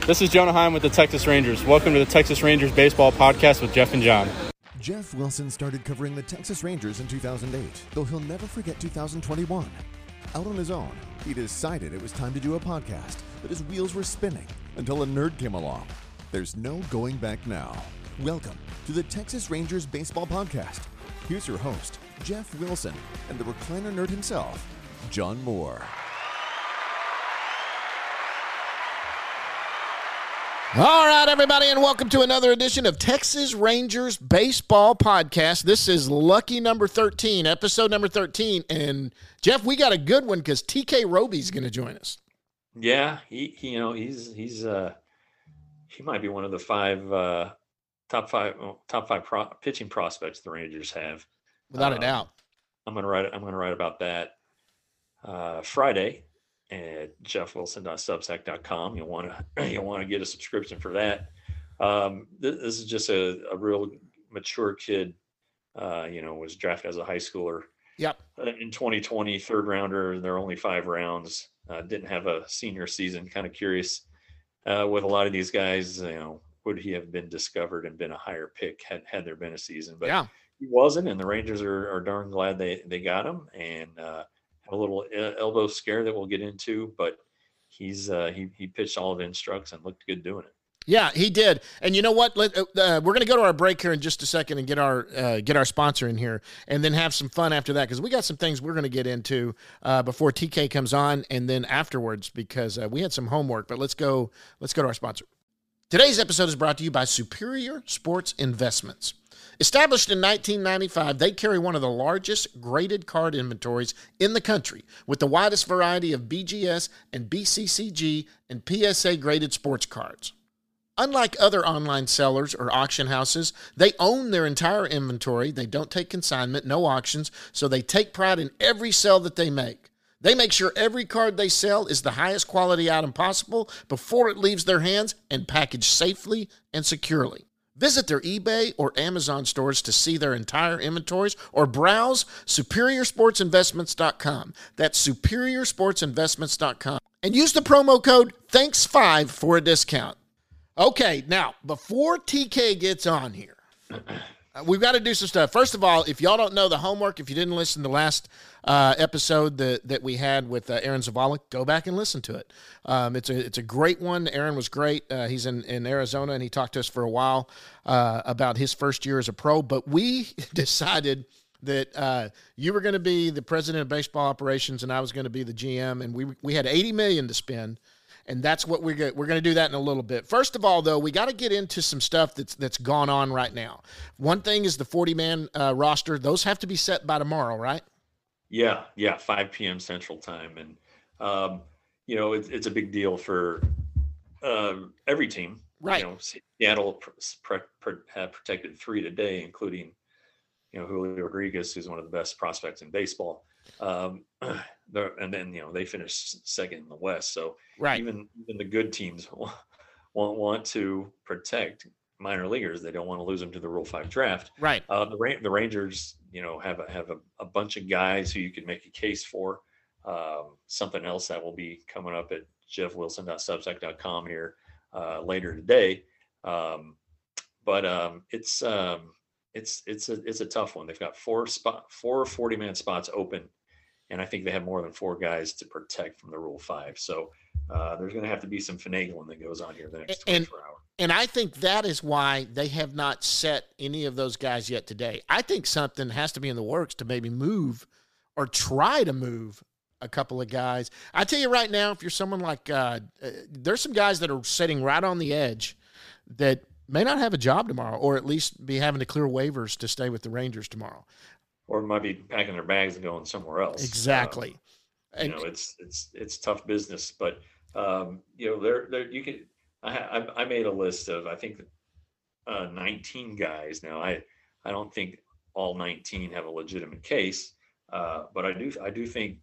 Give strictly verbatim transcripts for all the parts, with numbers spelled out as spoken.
This is Jonah Heim with the Texas Rangers. Welcome to the Texas Rangers Baseball Podcast with Jeff and John. Jeff Wilson started covering the Texas Rangers in two thousand eight, though he'll never forget two thousand twenty-one. Out on his own, he decided it was time to do a podcast, but his wheels were spinning until a nerd came along. There's no going back now. Welcome to the Texas Rangers Baseball Podcast. Here's your host, Jeff Wilson, and the recliner nerd himself, John Moore. All right, everybody, and welcome to another edition of Texas Rangers Baseball Podcast. This is lucky number thirteen, episode number thirteen. And, Jeff, we got a good one because T K Roby's going to join us. Yeah, he, he you know, he's he's uh he might be one of the five uh, top five well, top five pro- pitching prospects the Rangers have. Without um, a doubt. I'm gonna write I'm gonna write about that uh, Friday at jeff wilson dot substack dot com. You'll want to you'll want to get a subscription for that. Um, this, this is just a, a real mature kid. Uh, you know, was drafted as a high schooler. Yep. In twenty twenty, third rounder. There are only five rounds. Uh, didn't have a senior season. Kind of curious uh, with a lot of these guys. You know, would he have been discovered and been a higher pick had had there been a season? But yeah. He wasn't, and the Rangers are, are darn glad they they got him. And uh, had a little elbow scare that we'll get into, but he's uh, he he pitched all of the instructs and looked good doing it. Yeah, he did. And you know what? Let, uh, we're going to go to our break here in just a second and get our uh, get our sponsor in here, and then have some fun after that because we got some things we're going to get into uh, before T K comes on, and then afterwards because uh, we had some homework. But let's go. Let's go to our sponsor. Today's episode is brought to you by Superior Sports Investments. Established in nineteen ninety-five, they carry one of the largest graded card inventories in the country with the widest variety of B G S and B C C G and P S A graded sports cards. Unlike other online sellers or auction houses, they own their entire inventory. They don't take consignment, no auctions, so they take pride in every sale that they make. They make sure every card they sell is the highest quality item possible before it leaves their hands and packaged safely and securely. Visit their eBay or Amazon stores to see their entire inventories or browse superior sports investments dot com. That's superior sports investments dot com. And use the promo code thanks five for a discount. Okay, now, before T K gets on here, uh, we've got to do some stuff. First of all, if y'all don't know the homework, if you didn't listen to the last uh, episode that, that we had with uh, Aaron Zavala, go back and listen to it. Um, it's a it's a great one. Aaron was great. Uh, he's in, in Arizona, and he talked to us for a while uh, about his first year as a pro. But we decided that uh, you were going to be the president of baseball operations, and I was going to be the G M, and we we had eighty million dollars to spend. And that's what we're going we're going to do that in a little bit. First of all, though, we got to get into some stuff that's that's gone on right now. One thing is the forty-man uh, roster. Those have to be set by tomorrow, right? Yeah, yeah, five p.m. Central Time. And, um, you know, it, it's a big deal for uh, every team. Right. You know, Seattle pre- pre- have protected three today, including, you know, Julio Rodriguez, who's one of the best prospects in baseball. Um, and then, you know, they finished second in the West. So right. even, even the good teams won't want to protect minor leaguers. They don't want to lose them to the Rule five draft. Right. Uh, the, the Rangers, you know, have a, have a, a bunch of guys who you can make a case for. Um, something else that will be coming up at jeff wilson dot substack dot com here uh, later today. Um, but um, it's um, it's it's a it's a tough one. They've got four spot four forty-man spots open, and I think they have more than four guys to protect from the Rule five. So uh, there's going to have to be some finagling that goes on here the next twenty-four and, hours. And I think that is why they have not set any of those guys yet today. I think something has to be in the works to maybe move or try to move a couple of guys. I tell you right now, if you're someone like uh, uh, there's some guys that are sitting right on the edge that may not have a job tomorrow, or at least be having to clear waivers to stay with the Rangers tomorrow. Or might be packing their bags and going somewhere else. Exactly. Um, and, you know, it's it's it's tough business, but um, you know, there there you can. I, I I made a list of I think uh, nineteen guys. Now I I don't think all nineteen have a legitimate case, uh, but I do I do think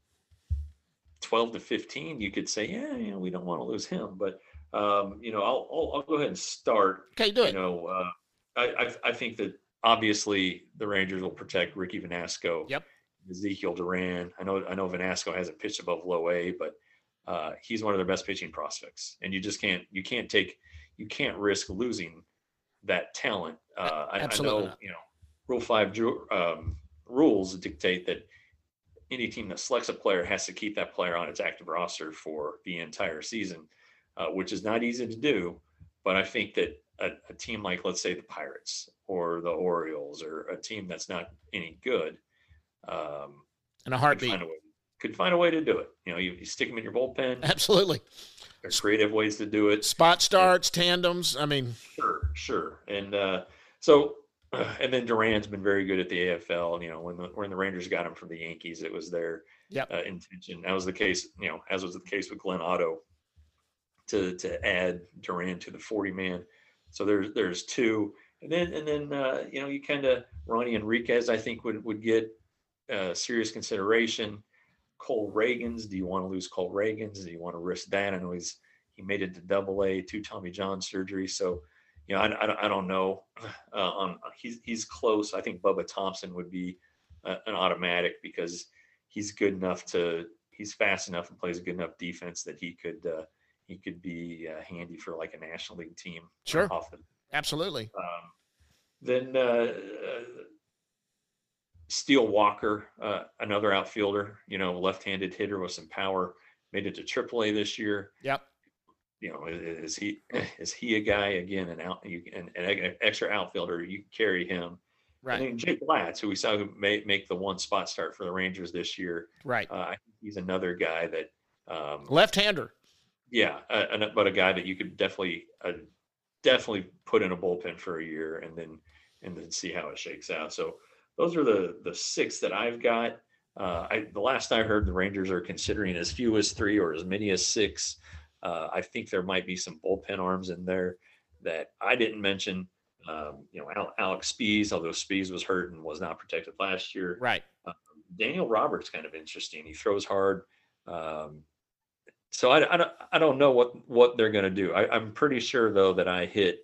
twelve to fifteen you could say, yeah, you know, we don't want to lose him, but um, you know, I'll, I'll I'll go ahead and start. Okay, do it. You know, uh, I, I I think that obviously the Rangers will protect Ricky Vanasco. Yep. Ezekiel Duran. I know I know Vanasco hasn't pitched above low A, but uh, he's one of their best pitching prospects, and you just can't you can't take you can't risk losing that talent. Uh, I, I know not. you know Rule Five um, rules dictate that any team that selects a player has to keep that player on its active roster for the entire season, uh, which is not easy to do. But I think that a, a team like, let's say, the Pirates or the Orioles, or a team that's not any good, um, in a heartbeat, could find a way, could find a way to do it. You know, you, you stick them in your bullpen. Absolutely. There's creative ways to do it. Spot starts, and, tandems. I mean, sure, sure. And uh, so, uh, and then Duran's been very good at the A F L. You know, when the when the Rangers got him from the Yankees, it was their yep. uh, intention. That was the case. You know, as was the case with Glenn Otto, to to add Duran to the forty man. So there's there's two, and then and then uh, you know, you kind of Ronnie Enriquez, I think would would get uh, serious consideration. Cole Reagans, do you want to lose Cole Reagans? Do you want to risk that? I know he's he made it to Double A, two Tommy John surgery, so you know I, I, I don't know. Uh, on he's he's close. I think Bubba Thompson would be uh, an automatic, because he's good enough to he's fast enough and plays a good enough defense that he could. Uh, He could be uh, handy for like a National League team. Sure. Off the, Absolutely. Um, then uh, uh, Steele Walker, uh, another outfielder, you know, left-handed hitter with some power, made it to triple A this year. Yep. You know, is, is he is he a guy again, an out you an, an extra outfielder? You carry him. Right. And then Jake Latz, who we saw who may make the one spot start for the Rangers this year. Right. Uh, I think he's another guy that um, left-hander. Yeah, uh, but a guy that you could definitely, uh, definitely put in a bullpen for a year, and then and then see how it shakes out. So those are the the six that I've got. Uh, I, the last I heard, the Rangers are considering as few as three or as many as six. Uh, I think there might be some bullpen arms in there that I didn't mention. Um, you know, Al, Alex Spees, although Spees was hurt and was not protected last year. Right. Uh, Daniel Roberts kind of interesting. He throws hard. Um, So I, I, don't, I don't know what, what they're going to do. I, I'm pretty sure, though, that I hit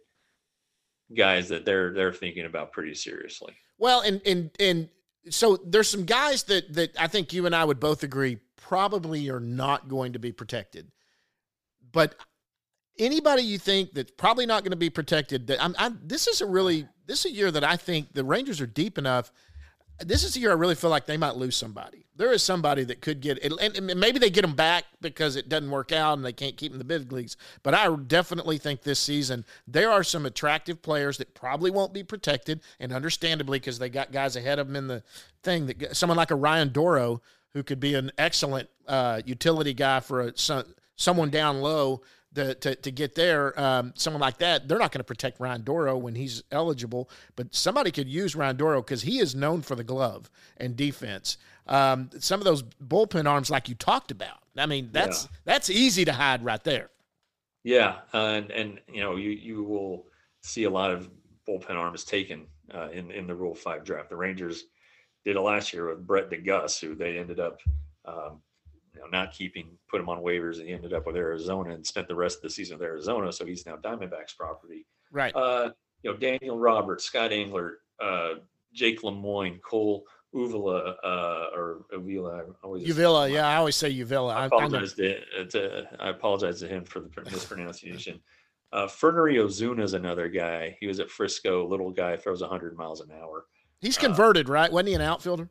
guys that they're they're thinking about pretty seriously. Well, and and and so there's some guys that that I think you and I would both agree probably are not going to be protected. But anybody you think that's probably not going to be protected, that I'm, I'm this is a really this is a year that I think the Rangers are deep enough. This is the year I really feel like they might lose somebody. There is somebody that could get it, and maybe they get them back because it doesn't work out and they can't keep them in the big leagues. But I definitely think this season there are some attractive players that probably won't be protected, and understandably because they got guys ahead of them in the thing. That someone like a Ryan Doro, who could be an excellent uh, utility guy for a, some, someone down low. The, to, to get there, um, someone like that, they're not going to protect Ryan Doro when he's eligible, but somebody could use Ryan Doro because he is known for the glove and defense. Um, some of those bullpen arms, like you talked about, I mean, that's yeah. that's easy to hide right there. Yeah, uh, and and you know you you will see a lot of bullpen arms taken uh, in in the Rule Five draft. The Rangers did it last year with Brett DeGuss, who they ended up. Um, You know, not keeping, put him on waivers, and he ended up with Arizona and spent the rest of the season with Arizona. So he's now Diamondbacks property. Right. Uh, you know, Daniel Roberts, Scott Engler, uh, Jake Lemoyne, Cole Uvila, uh, or Uvila. I always Uvila, yeah, I always say Uvila. I apologize, I, I to, to, I apologize to him for the mispronunciation. uh, Fernary Ozuna is another guy. He was at Frisco, little guy, throws one hundred miles an hour. He's converted, uh, right? Wasn't he an outfielder?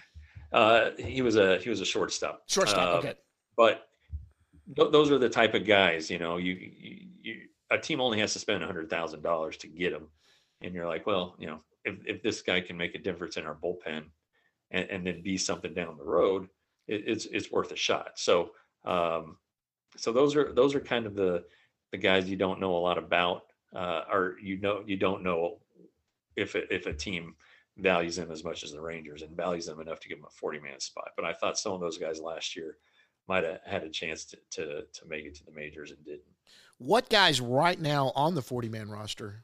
Uh, he was a he was a shortstop. Shortstop, uh, okay. But th- those are the type of guys, you know. You, you, you a team only has to spend a hundred thousand dollars to get them, and you're like, well, you know, if if this guy can make a difference in our bullpen, and, and then be something down the road, it, it's it's worth a shot. So, um, so those are those are kind of the the guys you don't know a lot about, uh, or you know you don't know if it, if a team values them as much as the Rangers and values them enough to give them a forty man spot. But I thought some of those guys last year might have had a chance to, to, to make it to the majors and didn't. What guys right now on the forty man roster,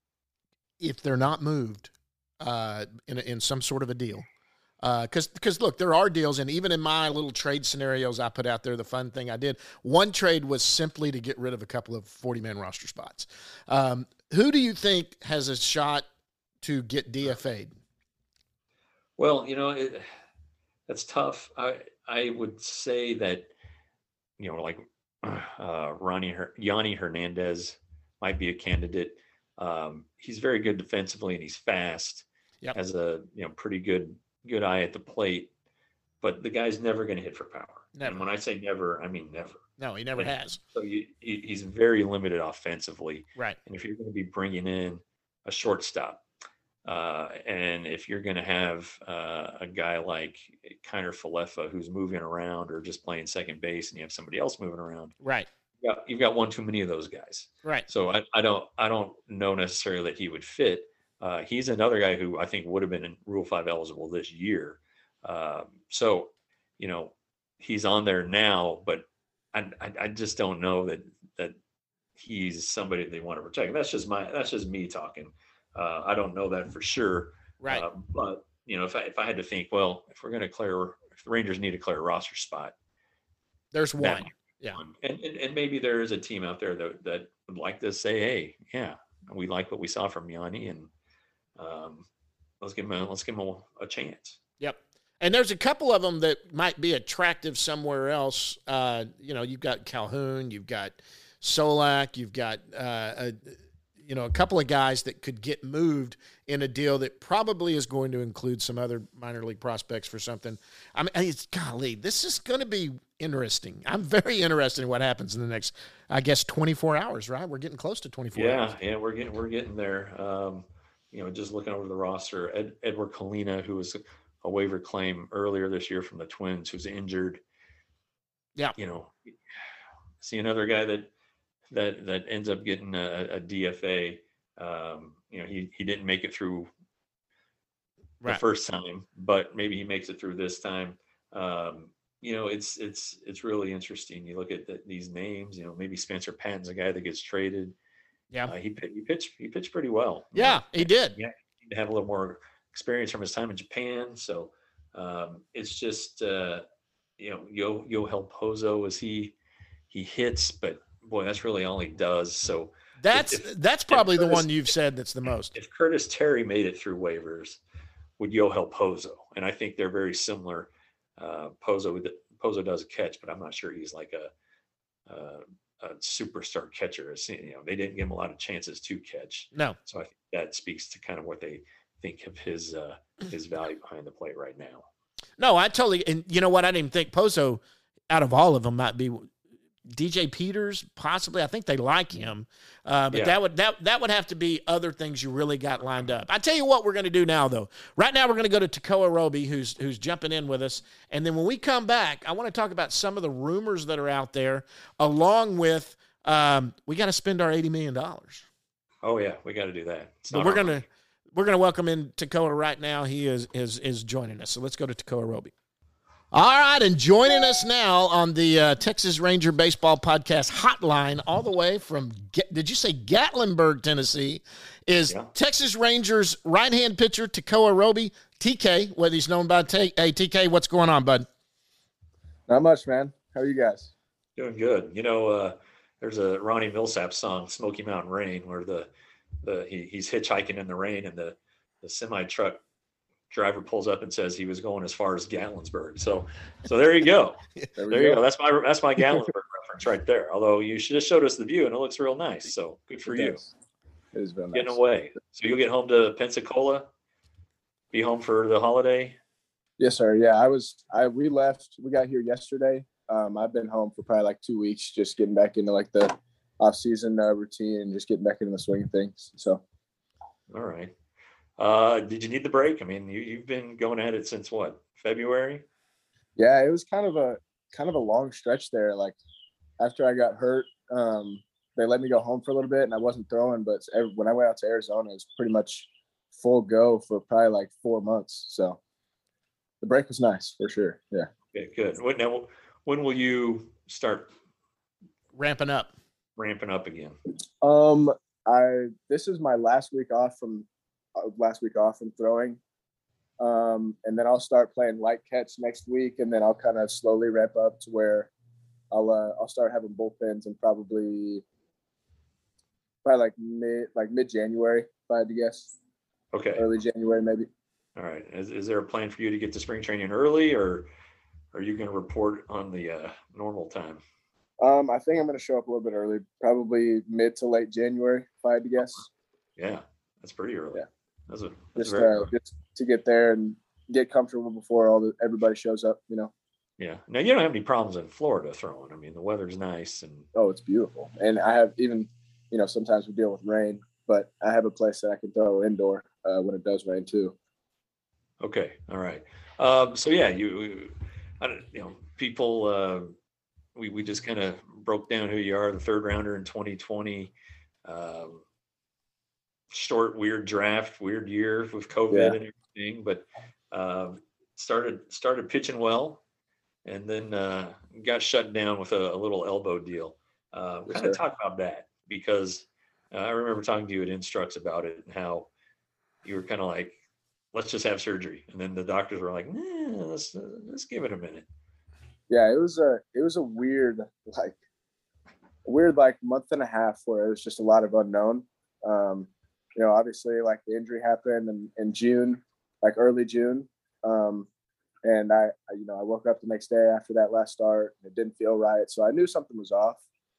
if they're not moved uh, in, a, in some sort of a deal, because uh, because look, there are deals, and even in my little trade scenarios I put out there, the fun thing I did, one trade was simply to get rid of a couple of forty man roster spots. Um, who do you think has a shot to get D F A'd? Well, you know, it, that's tough. I I would say that you know, like uh, Ronnie Her- Yanni Hernandez might be a candidate. Um, he's very good defensively and he's fast. Yep. Has a you know pretty good good eye at the plate, but the guy's never going to hit for power. Never. And when I say never, I mean never. No, he never and has. So you, he, he's very limited offensively. Right. And if you're going to be bringing in a shortstop, uh, and if you're going to have uh, a guy like Kiner Falefa who's moving around or just playing second base, and you have somebody else moving around, right? You've got, you've got one too many of those guys. Right. So I, I don't I don't know necessarily that he would fit. Uh, he's another guy who I think would have been in Rule Five eligible this year. Um, so, you know, he's on there now, but I, I, I just don't know that that he's somebody they want to protect. That's just my that's just me talking. Uh, I don't know that for sure. Right. Uh, but you know, if I if I had to think, well, if we're going to clear, if the Rangers need to clear a roster spot, there's one. Yeah. One. And, and and maybe there is a team out there that that would like to say, hey, yeah, we like what we saw from Yanni, and um, let's give him a, let's give him a, a chance. Yep. And there's a couple of them that might be attractive somewhere else. Uh, you know, you've got Calhoun, you've got Solak, you've got, uh, a, you know, a couple of guys that could get moved in a deal that probably is going to include some other minor league prospects for something. I mean, it's, golly, this is going to be interesting. I'm very interested in what happens in the next, I guess, twenty-four hours, right? We're getting close to twenty-four yeah, hours. Yeah, we're getting, we're getting there. Um, you know, just looking over the roster, Ed, Edward Colina, who was a waiver claim earlier this year from the Twins, who's injured. Yeah. You know, see another guy that, that, that ends up getting a, a D F A. Um, you know, he, he didn't make it through the right. first time, but maybe he makes it through this time. Um, you know, it's, it's, it's really interesting. You look at the, these names, you know, maybe Spencer Patton's a guy that gets traded. Yeah. Uh, he, he pitched, he pitched pretty well. Yeah, he did. Yeah. He to have a little more experience from his time in Japan. So um, it's just, uh, you know, Yo, Yohel Pozo, is he, he hits, but boy, that's really all he does. So that's, if, if, that's probably Curtis, the one you've said that's the most. If Curtis Terry made it through waivers, would Yohel Pozo? And I think they're very similar. Uh, Pozo, Pozo does catch, but I'm not sure he's like a, a, a superstar catcher. You know, they didn't give him a lot of chances to catch. No. So I think that speaks to kind of what they think of his uh, his value behind the plate right now. No, I totally, and you know what? I didn't even think Pozo, out of all of them, might be D J Peters, possibly. I think they like him, uh, but yeah. that would that that would have to be other things you really got lined up. I tell you what, we're going to do now, though. Right now, we're going to go to Tekoa Roby, who's who's jumping in with us, and then when we come back, I want to talk about some of the rumors that are out there, along with um, we got to spend our eighty million dollars. Oh yeah, we got to do that. But we're gonna we're gonna welcome in Tekoa right now. He is is is joining us. So let's go to Tekoa Roby. All right, and joining us now on the uh, Texas Ranger Baseball Podcast hotline, all the way from, did you say Gatlinburg, Tennessee, is yeah. Texas Rangers right-hand pitcher Tekoa Roby, T K, what he's known by. T- hey, T K, what's going on, bud? Not much, man. How are you guys? Doing good. You know, uh, there's a Ronnie Millsap song, Smoky Mountain Rain, where the the he, he's hitchhiking in the rain, and the, the semi-truck driver pulls up and says he was going as far as Gatlinburg. So, so there you go. there there you go. go. That's my that's my Gatlinburg reference right there. Although you should have showed us the view, and it looks real nice. So good for it you. Does. It is very nice. Getting away. So you'll get home to Pensacola. Be home for the holiday. Yes, sir. Yeah, I was. I we left. We got here yesterday. Um, I've been home for probably like two weeks, just getting back into like the off-season uh, routine and just getting back into the swing of things. So, all right. Uh, did you need the break? I mean, you, you've been going at it since what, February? Yeah, it was kind of a kind of a long stretch there. Like after I got hurt, um, they let me go home for a little bit, and I wasn't throwing. But every, when I went out to Arizona, it was pretty much full go for probably like four months. So the break was nice for sure. Yeah. Okay, good. When, now, when will you start ramping up? Ramping up again. Um, I this is my last week off from. last week off from throwing. Um, and then I'll start playing light catch next week. And then I'll kind of slowly ramp up to where I'll, uh, I'll start having bullpens and probably, probably like mid, like mid January, if I had to guess. Okay. Early January, maybe. All right. Is, is there a plan for you to get to spring training early, or are you going to report on the uh, normal time? Um, I think I'm going to show up a little bit early, probably mid to late January, if I had to guess. Yeah, that's pretty early. Yeah. That's a that's Just, very uh, early. just to get there and get comfortable before all the everybody shows up. You know. Yeah. Now you don't have any problems in Florida throwing. I mean, the weather's nice and Oh, it's beautiful, and I have even, you know, sometimes we deal with rain, but I have a place that I can throw indoor uh, when it does rain too. okay. All right. Um, so yeah, you, I don't, you know, people. Uh, we we just kind of broke down who you are. The third rounder in twenty twenty. Um, short, weird draft, weird year with COVID Yeah. and everything, but um, started started pitching well, and then uh, got shut down with a, a little elbow deal. Uh, Yes, kind of sir. talk about that because uh, I remember talking to you at Instructs about it and how you were kind of like, let's just have surgery, and then the doctors were like, nah, let's uh, let's give it a minute. Yeah, it was a it was a weird like weird like month and a half where it was just a lot of unknown. Um, you know, obviously like the injury happened in, in June, like early June. Um, and I, I, you know, I woke up the next day after that last start and it didn't feel right. So I knew something was off.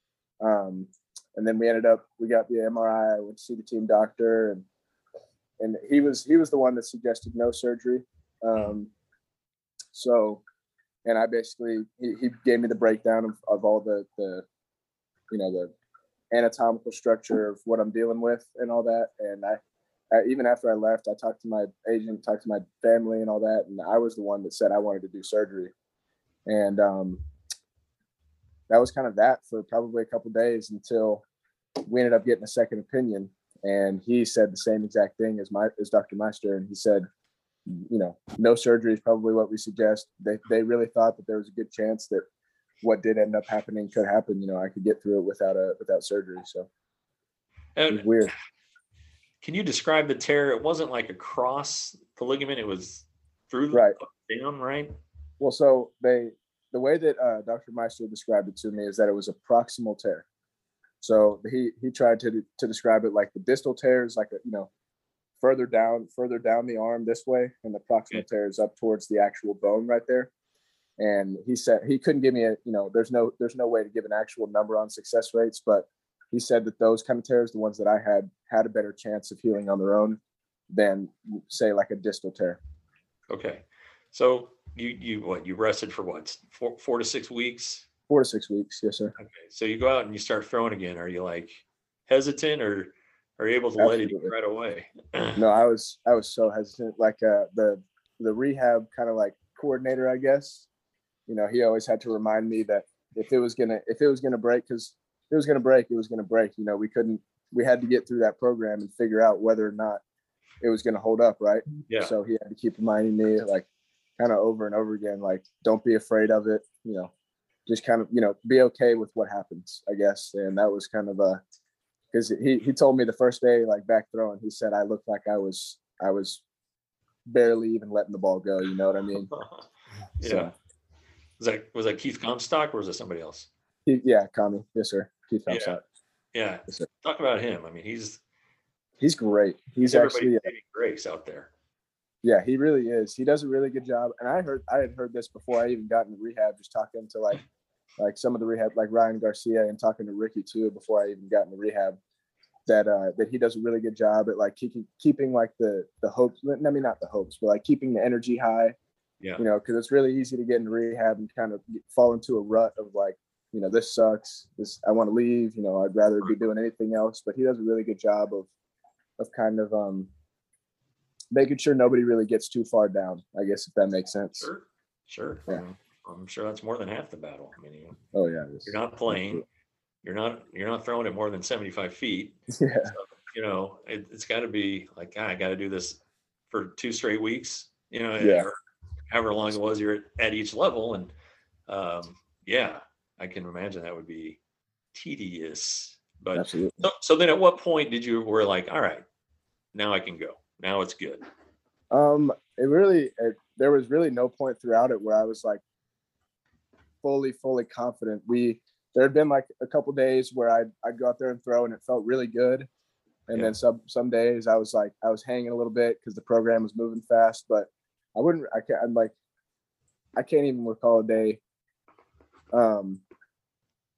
Um, and then we ended up, we got the M R I, I went to see the team doctor and, and he was, he was the one that suggested no surgery. Um, so, and I basically, he, he gave me the breakdown of, of all the, the, you know, the anatomical structure of what I'm dealing with and all that. And I, I, even after I left, I talked to my agent, talked to my family and all that. And I was the one that said I wanted to do surgery. And um, that was kind of that for probably a couple of days until we ended up getting a second opinion. And he said the same exact thing as my, as Doctor Meister. And he said, you know, no surgery is probably what we suggest. They, they really thought that there was a good chance that what did end up happening could happen. You know, I could get through it without a, without surgery. So it was And weird. can you describe the tear? It wasn't like across the ligament; it was through the Right. down, right? Well, so they, the way that uh, Doctor Meister described it to me is that it was a proximal tear. So he he tried to to describe it like the distal tear is like a, you know, further down further down the arm this way, and the proximal Okay. tear is up towards the actual bone right there. And he said he couldn't give me a, you know, there's no there's no way to give an actual number on success rates, but he said that those kind of tears, the ones that I had, had a better chance of healing on their own than say like a distal tear. Okay, so you you what you rested for what four four to six weeks? Four to six weeks, yes, sir. Okay, so you go out and you start throwing again. Are you like hesitant, or are you able to let it Absolutely. right away? No, I was I was so hesitant. Like uh, the the rehab kind of like coordinator, I guess. You know, he always had to remind me that if it was gonna if it was gonna break, because if it was gonna break, it was gonna break. You know, we couldn't we had to get through that program and figure out whether or not it was gonna hold up, right? Yeah. So he had to keep reminding me, like, kind of over and over again, like, don't be afraid of it. You know, just kind of, you know, be okay with what happens, I guess. And that was kind of a, because he he told me the first day, like back throwing, he said I looked like I was I was barely even letting the ball go. You know what I mean? yeah. So, Was that was that Keith Comstock or was it somebody else? he, yeah, Kami, yes, sir. Keith Yeah. Comstock. Yeah. Yes, sir. Talk about him. I mean, he's He's great. He's everybody's actually, saving grace out there. yeah, he really is. He does a really good job. And I heard, I had heard this before I even got into rehab, just talking to like, like some of the rehab, like Ryan Garcia, and talking to Ricky too, before I even got into rehab, that, uh, that he does a really good job at like keeping, keeping like the, the hopes, I mean, not the hopes, but like keeping the energy high, Yeah. you know, cause it's really easy to get into rehab and kind of fall into a rut of like, you know, this sucks, this, I want to leave, you know, I'd rather be doing anything else, but he does a really good job of, of kind of, um, making sure nobody really gets too far down, I guess, if that makes sense. Sure. Sure. Yeah. I mean, I'm sure that's more than half the battle. I mean, you, Oh yeah. It is. you're not playing, you're not, you're not throwing it more than seventy-five feet. Yeah. So, you know, it, it's got to be like, ah, I got to do this for two straight weeks, you know, Yeah. or however long it was you're at, at each level. And um, yeah, I can imagine that would be tedious. But Absolutely. so, so then at what point did you were like, all right, now I can go. Now it's good. Um, it really, it, there was really no point throughout it where I was like fully, fully confident. We, there had been like a couple days where I'd, I'd go out there and throw and it felt really good. And Yeah. then some, some days I was like, I was hanging a little bit because the program was moving fast, but I wouldn't, I can't, I'm like, I can't even recall a day, um,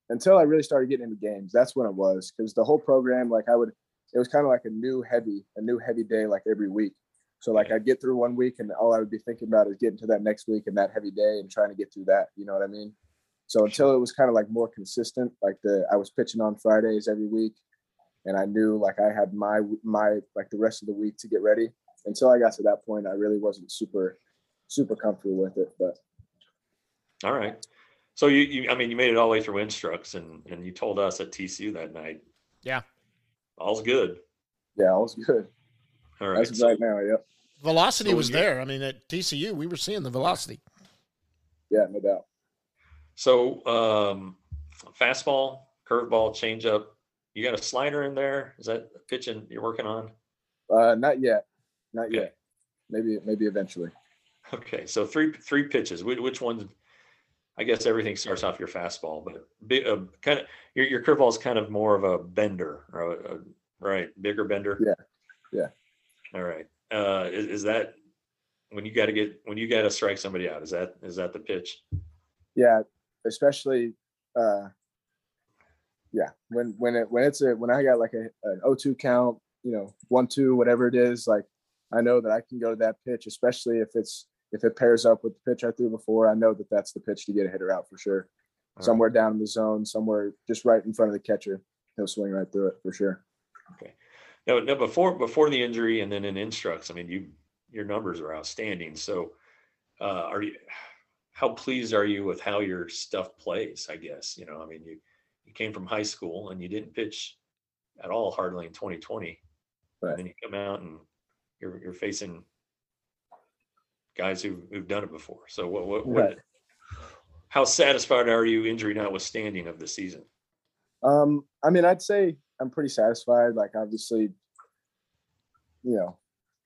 until I really started getting into games. That's when it was, because the whole program, like I would, it was kind of like a new heavy, a new heavy day, like every week. So like I'd get through one week and all I would be thinking about is getting to that next week and that heavy day and trying to get through that. You know what I mean? So until it was kind of like more consistent, like the, I was pitching on Fridays every week and I knew like I had my, my, like the rest of the week to get ready. Until I got to that point, I really wasn't super, super comfortable with it, but. All right. So you, you, I mean, you made it all the way through Instructs and, and you told us at T C U that night. Yeah. All's good. Yeah, all's good. All right. As so, right now, yep. Velocity so was you, there. I mean, at T C U, we were seeing the velocity. Yeah, no doubt. So um, fastball, curveball, changeup. You got a slider in there? Is that a pitching you're working on? Uh, not yet. Not Okay. yet. Maybe, maybe eventually. Okay. So three three pitches. Which, which ones? I guess everything starts off your fastball, but big, uh, kind of your your curveball is kind of more of a bender, or a, a, right? Bigger bender. Yeah. Yeah. All right. Uh, is, is that when you got to get when you got to strike somebody out? Is that is that the pitch? Yeah, especially. Uh, yeah, when when it when it's a when I got like a an oh two count, you know, one two, whatever it is, like I know that I can go to that pitch, especially if it's if it pairs up with the pitch I threw before. I know that that's the pitch to get a hitter out for sure. All somewhere right. down in the zone, somewhere just right in front of the catcher, he'll swing right through it for sure. Okay. No, no. Before before the injury and then in Instructs, I mean, you your numbers are outstanding. So, uh, are you? How pleased are you with how your stuff plays? I guess you know. I mean, you you came from high school and you didn't pitch at all hardly in twenty twenty, Right. and then you come out and you're you're facing guys who who've done it before. So what what, what Right. how satisfied are you, injury notwithstanding, of the season? Um, I mean, I'd say I'm pretty satisfied. Like, obviously, you know,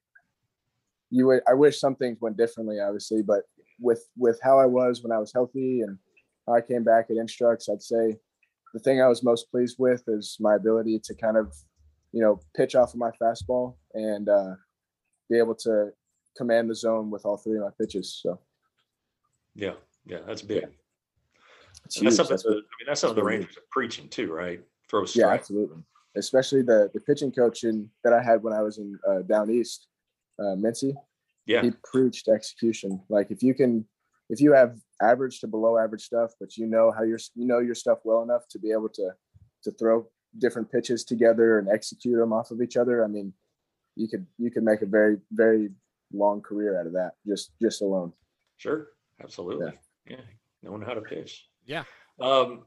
you would, I wish some things went differently, obviously, but with with how I was when I was healthy and how I came back at Instructs, I'd say the thing I was most pleased with is my ability to kind of, you know, pitch off of my fastball and uh, be able to command the zone with all three of my pitches. So Yeah, yeah, that's big. Yeah. it's And that's huge. something. That's that, what- I mean, that's something the really Rangers are preaching too, right? Throw yeah, strike. absolutely. Especially the the pitching coach in, that I had when I was in uh, down east, uh, Mincy. Yeah, He preached execution. Like if you can, if you have average to below average stuff, but you know how you're, you know your stuff well enough to be able to to throw different pitches together and execute them off of each other. I mean, you could you could make a very very long career out of that just just alone. sure, absolutely. Yeah, knowing how to pitch. Yeah. Um,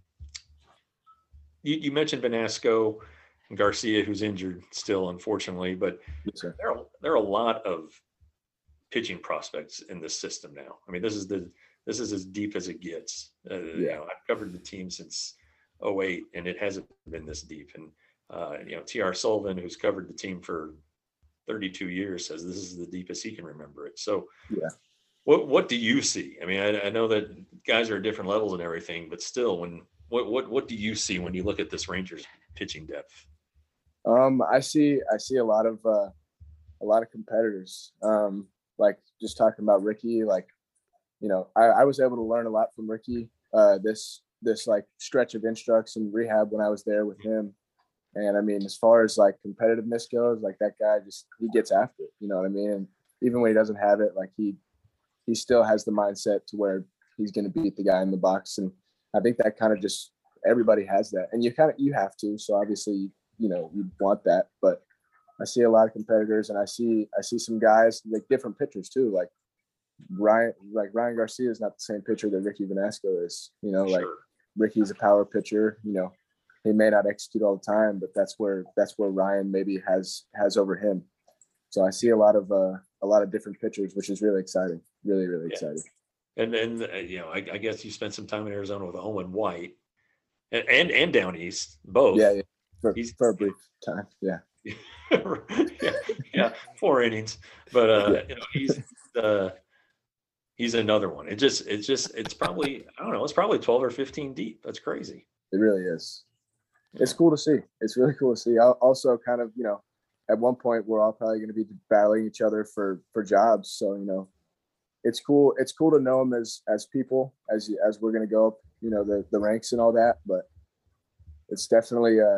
you, you mentioned Benasco and Garcia, who's injured still, unfortunately, but Yes, sir. there are there are a lot of pitching prospects in this system now. I mean, this is the this is as deep as it gets. Uh, You Yeah. know, I've covered the team since oh eight, and it hasn't been this deep. And uh, you know, T R Sullivan, who's covered the team for thirty-two years, says this is the deepest he can remember it. So, Yeah. what what do you see? I mean, I, I know that guys are at different levels and everything, but still, when what what what do you see when you look at this Rangers pitching depth? Um, I see I see a lot of uh, a lot of competitors. Um, like just talking about Ricky, like you know, I, I was able to learn a lot from Ricky uh, this this like stretch of Instructs and rehab when I was there with him. And I mean, as far as like competitiveness goes, like that guy just he gets after it. You know what I mean? And even when he doesn't have it, like he he still has the mindset to where he's going to beat the guy in the box. And I think that kind of just everybody has that, and you kind of you have to. So obviously, you know, you want that, but I see a lot of competitors, and I see I see some guys like different pitchers too. Like Ryan, like Ryan Garcia is not the same pitcher that Ricky Vanasco is. You know, like Sure. Ricky's a power pitcher. You know, he may not execute all the time, but that's where that's where Ryan maybe has has over him. So I see a lot of uh, a lot of different pitchers, which is really exciting. Really, really Yeah. exciting. And and uh, you know, I, I guess you spent some time in Arizona with Owen White, and and, and down east, both. Yeah, yeah. For, He's- for a brief time. Yeah. yeah, yeah, four innings, but uh, Yeah. you know, he's uh, he's another one. It just, it's just, it's probably, I don't know, it's probably twelve or fifteen deep. That's crazy. It really is. It's cool to see. It's really cool to see. I'll also kind of, you know, at one point we're all probably going to be battling each other for for jobs. So, you know, it's cool. It's cool to know them as as people, as you- as we're going to go up, you know, the the ranks and all that, but it's definitely uh,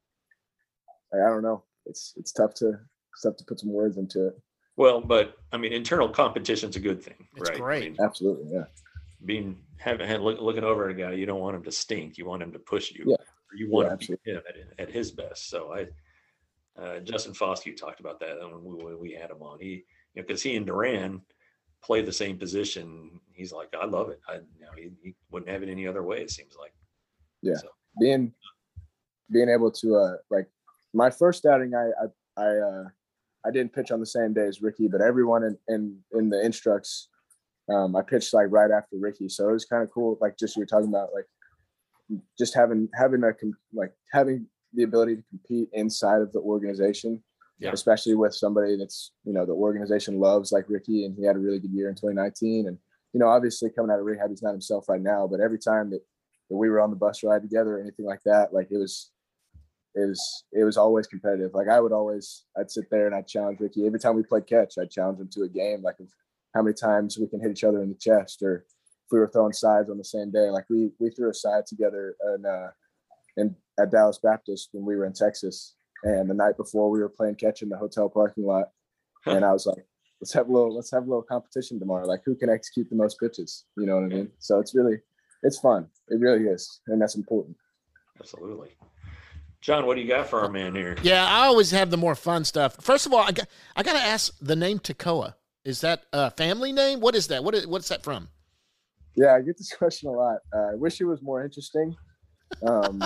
I don't know. It's it's tough to it's tough to put some words into it. Well, but I mean, internal competition's a good thing, It's right? great. I mean, Absolutely, yeah. being having had look, looking over at a guy, you don't want him to stink. You want him to push you. Yeah. Or you want Yeah, him to be him at, at his best. So I, uh, Justin Foskey talked about that when we, when we had him on. He, you know, because he and Duran play the same position. He's like, I love it. I, you know, he, he wouldn't have it any other way. It seems like. Yeah. So, Being being able to uh like my first outing, I I I uh I didn't pitch on the same day as Ricky, but everyone in in, in the instructs, um, I pitched like right after Ricky, so it was kind of cool. Like just you were talking about, like just having having a like having the ability to compete inside of the organization, Yeah. especially with somebody that's, you know, the organization loves, like Ricky, and he had a really good year in twenty nineteen. And you know, obviously coming out of rehab, he's not himself right now, but every time that, that we were on the bus ride together or anything like that, like it was. It was it was always competitive. Like I would always I'd sit there and I'd challenge Ricky. Every time we played catch, I'd challenge him to a game, like of how many times we can hit each other in the chest, or if we were throwing sides on the same day. Like we we threw a side together in uh in at Dallas Baptist when we were in Texas. And the night before we were playing catch in the hotel parking lot. And I was like, let's have a little let's have a little competition tomorrow. Like who can execute the most pitches? You know what I mean? So it's really it's fun. It really is. And that's important. absolutely. John, what do you got for our man here? Yeah, I always have the more fun stuff. First of all, I got I got to ask the name Tekoa. Is that a family name? What is that? What is what's that from? Yeah, I get this question a lot. Uh, I wish it was more interesting. Um,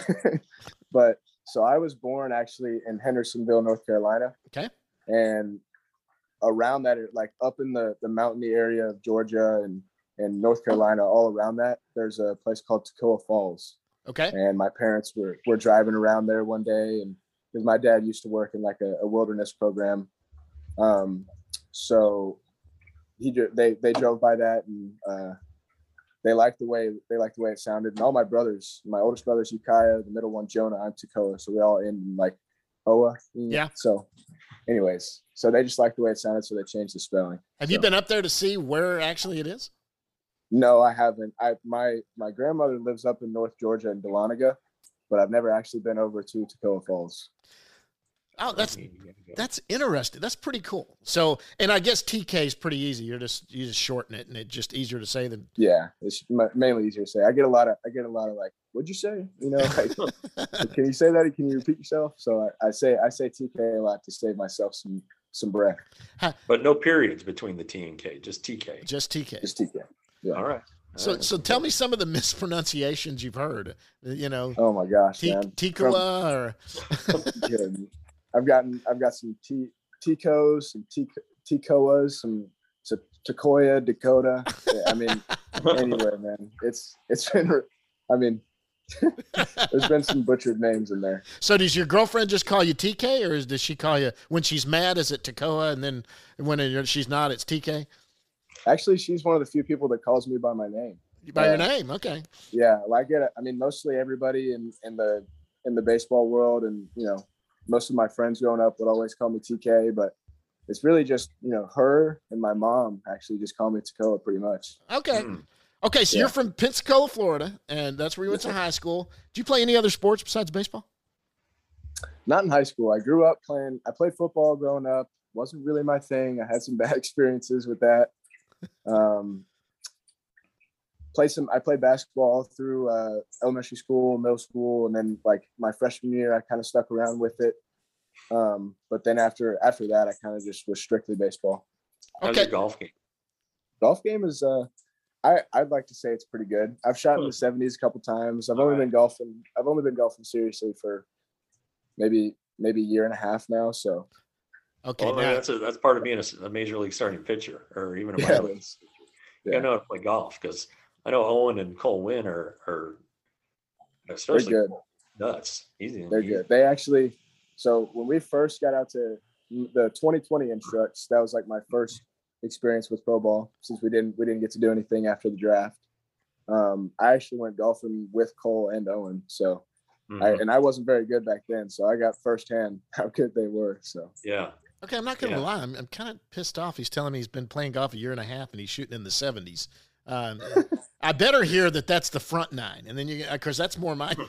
but so I was born actually in Hendersonville, North Carolina. Okay. And around that, like up in the, the mountainy area of Georgia and, and North Carolina, all around that, there's a place called Tekoa Falls. Okay. And my parents were, were driving around there one day, and because my dad used to work in like a, a wilderness program. Um, so he they they drove by that, and uh, they liked the way they liked the way it sounded. And all my brothers, my oldest brother's Ukiah, the middle one Jonah, I'm Tekoa, so we all in like Oa. Yeah. So, anyways, so they just liked the way it sounded, so they changed the spelling. Have so. you been up there to see where actually it is? No, I haven't. I my my grandmother lives up in North Georgia in Dahlonega, but I've never actually been over to Tekoa Falls. Oh, that's that's interesting. That's pretty cool. So, and I guess T K is pretty easy. You're just you just shorten it, and it's just easier to say than. Yeah, it's mainly easier to say. I get a lot of I get a lot of like, what'd you say? You know, like, can you say that? Can you repeat yourself? So I, I say I say T K a lot to save myself some some breath. But no periods between the T and K, just T K. Just T K. Just T K. Yeah. All right. All So, right. so tell me some of the mispronunciations you've heard. You know, Oh my gosh, T- man. Tekoa or Good. I've gotten I've got some T Ticos, some T Tekoas, some T- Tekoya, Dakota. Yeah, I mean, anywhere, man. It's it's been. I mean, there's been some butchered names in there. so does your girlfriend just call you T K, or is, does she call you when she's mad? Is it Tekoa, and then when it, she's not, it's T K? Actually, she's one of the few people that calls me by my name. By your Uh, name, okay. Yeah, well, I get it. I mean, mostly everybody in, in the in the baseball world, and you know, most of my friends growing up would always call me T K, but it's really just, you know, her and my mom actually just call me Tekoa pretty much. Okay. Hmm. Okay, so Yeah. you're from Pensacola, Florida, and that's where you went to high school. Did you play any other sports besides baseball? Not in high school. I grew up playing. I played football growing up. Wasn't really my thing. I had some bad experiences with that. Um, play some. I played basketball through uh, elementary school, middle school, and then like my freshman year, I kind of stuck around with it. Um, but then after after that, I kind of just was strictly baseball. How's Okay. your golf game? Golf game is. Uh, I I'd like to say it's pretty good. I've shot in the seventies a couple times. I've only All right. been golfing. I've only been golfing seriously for maybe maybe a year and a half now. So Okay, Well, I mean, now, that's a, that's part of being a, a major league starting pitcher, or even a yeah, minor it league. is. You Yeah. gotta know how to play golf, because I know Owen and Cole Wynn are are They're especially good. nuts. Easy. They're good. They actually, so when we first got out to the twenty twenty instructs, that was like my first experience with pro ball, since we didn't we didn't get to do anything after the draft. Um, I actually went golfing with Cole and Owen, so Mhm. I and I wasn't very good back then, so I got firsthand how good they were. So yeah. okay, I'm not going to Yeah. lie. I'm, I'm kind of pissed off. He's telling me he's been playing golf a year and a half, and he's shooting in the seventies. Um, I better hear that that's the front nine, and then you, of course, that's more my.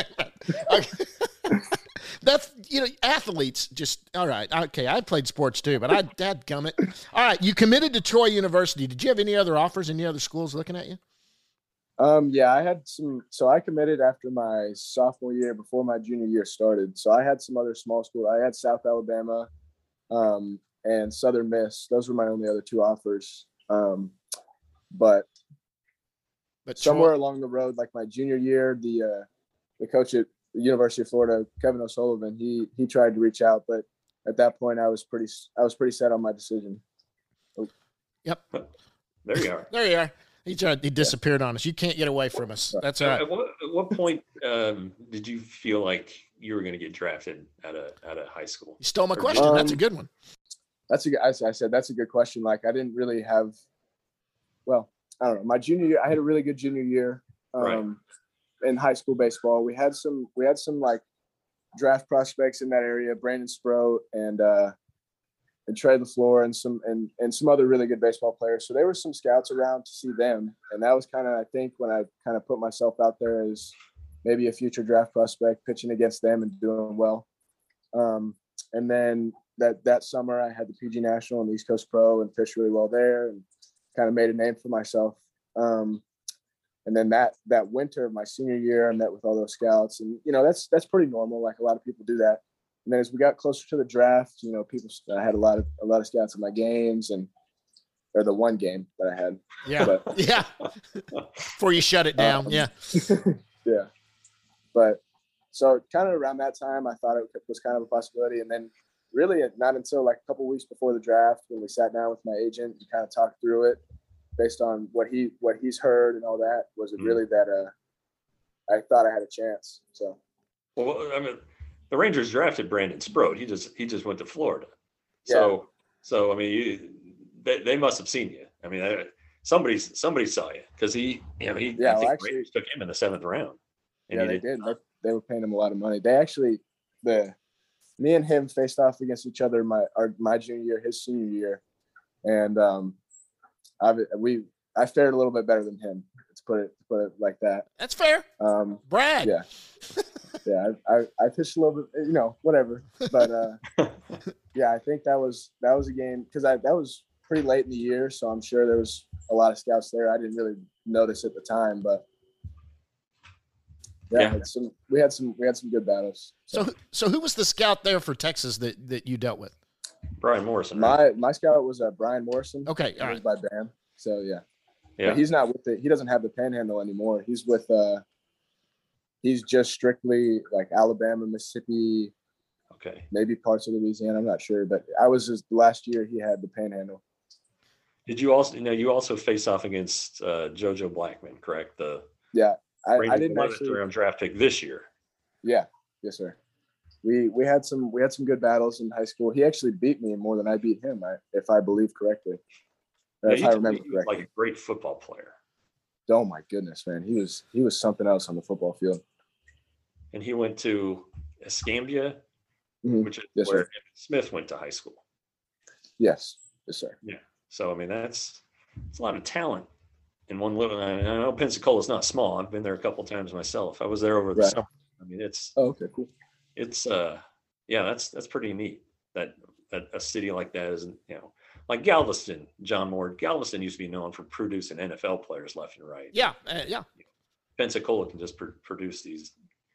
That's, you know, athletes just, all right, okay, I played sports too, but I, dadgummit. All right, you committed to Troy University. Did you have any other offers, any other schools looking at you? Um, yeah, I had some. So I committed after my sophomore year, before my junior year started. So I had some other small schools. I had South Alabama um, and Southern Miss. Those were my only other two offers. Um, but But somewhere Troy, along the road, like my junior year, the uh, the coach at the University of Florida, Kevin O'Sullivan, he he tried to reach out, but at that point, I was pretty I was pretty set on my decision. yep, There you are. there you are. He tried, he disappeared on us. You can't get away from us. That's all right. At what, at what point um, did you feel like you were going to get drafted out of out of high school? You stole my Or question. Um, That's a good one. That's a good, I, I said that's a good question. Like I didn't really have, well, I don't know. My junior year, I had a really good junior year. Um, Right. In high school baseball, we had some we had some like draft prospects in that area, Brandon Sproat and uh, and Trey LaFleur and some and and some other really good baseball players. So there were some scouts around to see them, and that was kind of I think when I kind of put myself out there as maybe a future draft prospect, pitching against them and doing well. Um, and then that that summer, I had the P G National and the East Coast Pro and pitched really well there, and kind of made a name for myself. Um, And then that that winter of my senior year, I met with all those scouts, and you know that's that's pretty normal. Like a lot of people do that. And then as we got closer to the draft, you know, people I had a lot of a lot of scouts at my games, and or the one game that I had. Yeah, But, yeah. Before you shut it down, um, yeah. yeah. But so kind of around that time, I thought it was kind of a possibility, and then really not until like a couple weeks before the draft when we sat down with my agent and kind of talked through it. Based on what he what he's heard and all that, was it really that uh I thought I had a chance. So Well, I mean, the Rangers drafted Brandon Sproat. He just he just went to Florida. So Yeah. so I mean, you, they they must have seen you. I mean, I, somebody somebody saw you because he you know he Yeah, I well, think actually- Rangers took him in the seventh round. And yeah, he they did. did. They, they were paying him a lot of money. They actually the me and him faced off against each other my our my junior year, his senior year, and um I we I fared a little bit better than him. Let's put it put it like that. That's fair. Um, Brag. yeah, yeah. I, I I pitched a little bit, you know, whatever. But uh, yeah, I think that was that was a game because I that was pretty late in the year, so I'm sure there was a lot of scouts there. I didn't really notice at the time, but yeah, Yeah. Had some we had some we had some good battles. So, so who was the scout there for Texas that, that you dealt with? Brian Morrison. right? my my scout was uh, Brian Morrison. Okay, He all was right. by Bam. So yeah. yeah. But he's not with the he doesn't have the Panhandle anymore. He's with uh he's just strictly like Alabama, Mississippi, Okay. maybe parts of Louisiana. I'm not sure, but I was his last year he had the Panhandle. Did you also you know you also face off against uh, JoJo Blackman, correct? The Yeah. I, I Rangers didn't eleventh actually round draft pick this year. yeah, yes, sir. We we had some we had some good battles in high school. He actually beat me more than I beat him, I, if I believe correctly. Yeah, If you I told me remember he was correctly. like a great football player, Oh my goodness, man. He was he was something else on the football field. and he went to Escambia, Mhm. which is Yes, where sir. Emmitt Smith went to high school. Yes. Yes, sir. So I mean, that's it's a lot of talent in one little. I know Pensacola's not small. I've been there a couple times myself. I was there over the Right. summer. I mean, it's Oh, okay, cool. it's uh yeah, that's that's pretty neat that that a city like that isn't, you know, like Galveston. John Moore, Galveston used to be known for producing N F L players left and right. Yeah, uh, yeah. Pensacola can just pr- produce these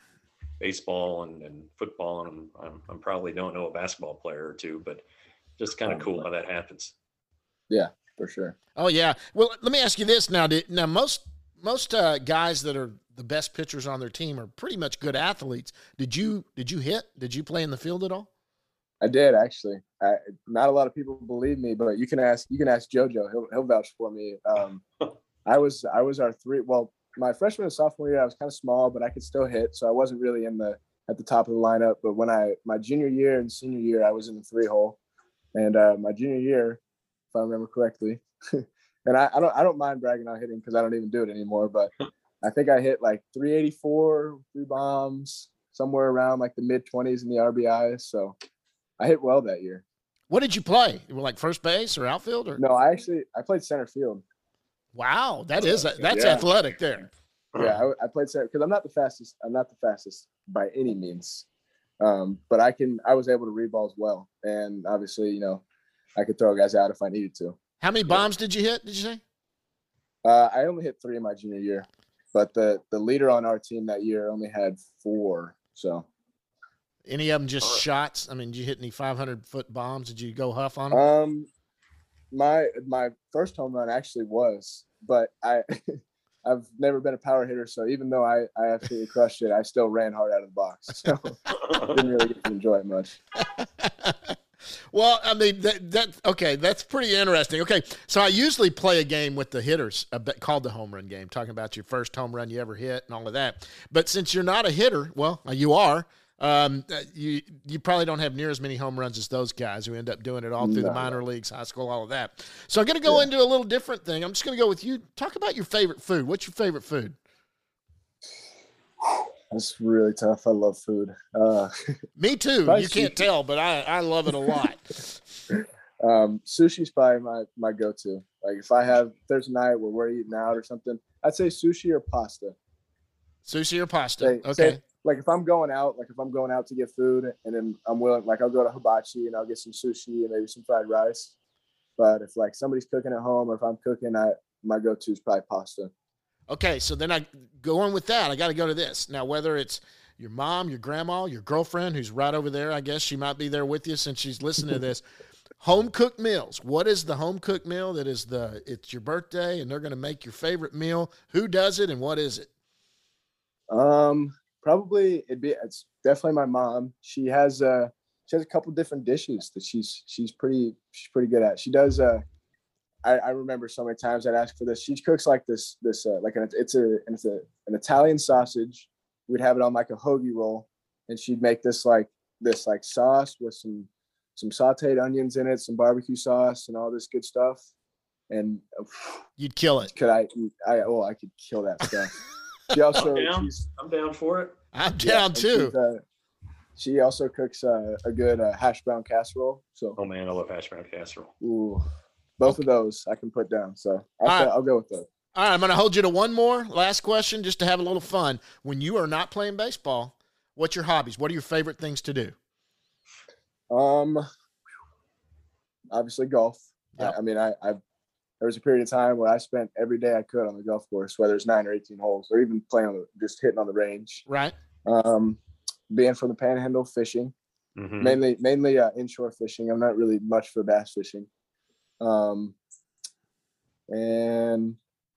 baseball and, and football, and I'm, I'm probably don't know a basketball player or two, but just kind of Oh, cool right. how that happens. Yeah, for sure. Oh yeah. Well, let me ask you this now. Did, now most most uh, guys that are the best pitchers on their team are pretty much good athletes. Did you did you hit? Did you play in the field at all? I did actually. I, not a lot of people believe me, but you can ask you can ask JoJo. He'll he'll vouch for me. Um, I was I was our three. Well, my freshman and sophomore year, I was kind of small, but I could still hit, so I wasn't really in the at the top of the lineup. But when I my junior year and senior year, I was in the three hole, and uh, my junior year, if I remember correctly, and I, I don't I don't mind bragging on hitting because I don't even do it anymore. But I think I hit like three eighty-four, three bombs, somewhere around like the mid twenties in the R B Is. So I hit well that year. What did you play? You were like first base or outfield or? No, I actually I played center field. Wow, that is that's Yeah. athletic there. Yeah, I, I played center because I'm not the fastest. I'm not the fastest by any means, um, but I can. I was able to read balls well, and obviously, you know, I could throw guys out if I needed to. How many bombs did you hit? Did you say? Uh, I only hit three in my junior year, but the the leader on our team that year only had four. So, any of them just shots? I mean, did you hit any five hundred foot bombs? Did you go huff on them? um, my my first home run actually was, but I. I've never been a power hitter, so even though I, I absolutely crushed it, I still ran hard out of the box. So didn't really get to enjoy it much. Well, I mean, that, that okay, that's pretty interesting. Okay, so I usually play a game with the hitters a bit, called the home run game, talking about your first home run you ever hit and all of that. But since you're not a hitter, well, you are. Um, you you probably don't have near as many home runs as those guys who end up doing it all through No. the minor leagues, high school, all of that. So I'm going to go Yeah. into a little different thing. I'm just going to go with you. Talk about your favorite food. What's your favorite food? That's really tough. I love food. Uh, Me too. Probably You can't sushi. tell, but I, I love it a lot. um, sushi's probably my, my go-to. Like if I have, if there's a night where we're eating out or something, I'd say sushi or pasta. Sushi or pasta? Say- Okay. say- like if I'm going out, like if I'm going out to get food and then I'm willing, like I'll go to Hibachi and I'll get some sushi and maybe some fried rice. But if like somebody's cooking at home or if I'm cooking, I my go-to is probably pasta. Okay, so then I go on with that. I got to go to this. Now, whether it's your mom, your grandma, your girlfriend, who's right over there, I guess she might be there with you since she's listening to this. Home cooked meals. What is the home cooked meal that is the, it's your birthday and they're going to make your favorite meal? Who does it and what is it? Um, probably it'd be it's definitely my mom. She has uh she has a couple different dishes that she's she's pretty she's pretty good at. She does uh I, I remember so many times I'd ask for this. She cooks like this this uh, like an it's a it's a an Italian sausage. We'd have it on like a hoagie roll, and she'd make this like this like sauce with some some sautéed onions in it, some barbecue sauce, and all this good stuff. And uh, You'd kill it. could I eat? I oh I could kill that stuff. She also I'm down. she's I'm down for it. I'm yeah, down and too. she's, uh, she also cooks uh, a good uh, hash brown casserole. So Oh man, I love hash brown casserole. ooh, both of those I can put down. So I'll, All say- right. I'll go with those. All right, I'm going to hold you to one more last question just to have a little fun. When you are not playing baseball, what's your hobbies? What are your favorite things to do? Um, obviously golf. Yep. I, I mean, I, I there was a period of time where I spent every day I could on the golf course, whether it's nine or eighteen holes, or even playing on the, just hitting on the range. Right? Um, being from the Panhandle, fishing Mhm. mainly mainly uh, inshore fishing. I'm not really much for bass fishing. Um, and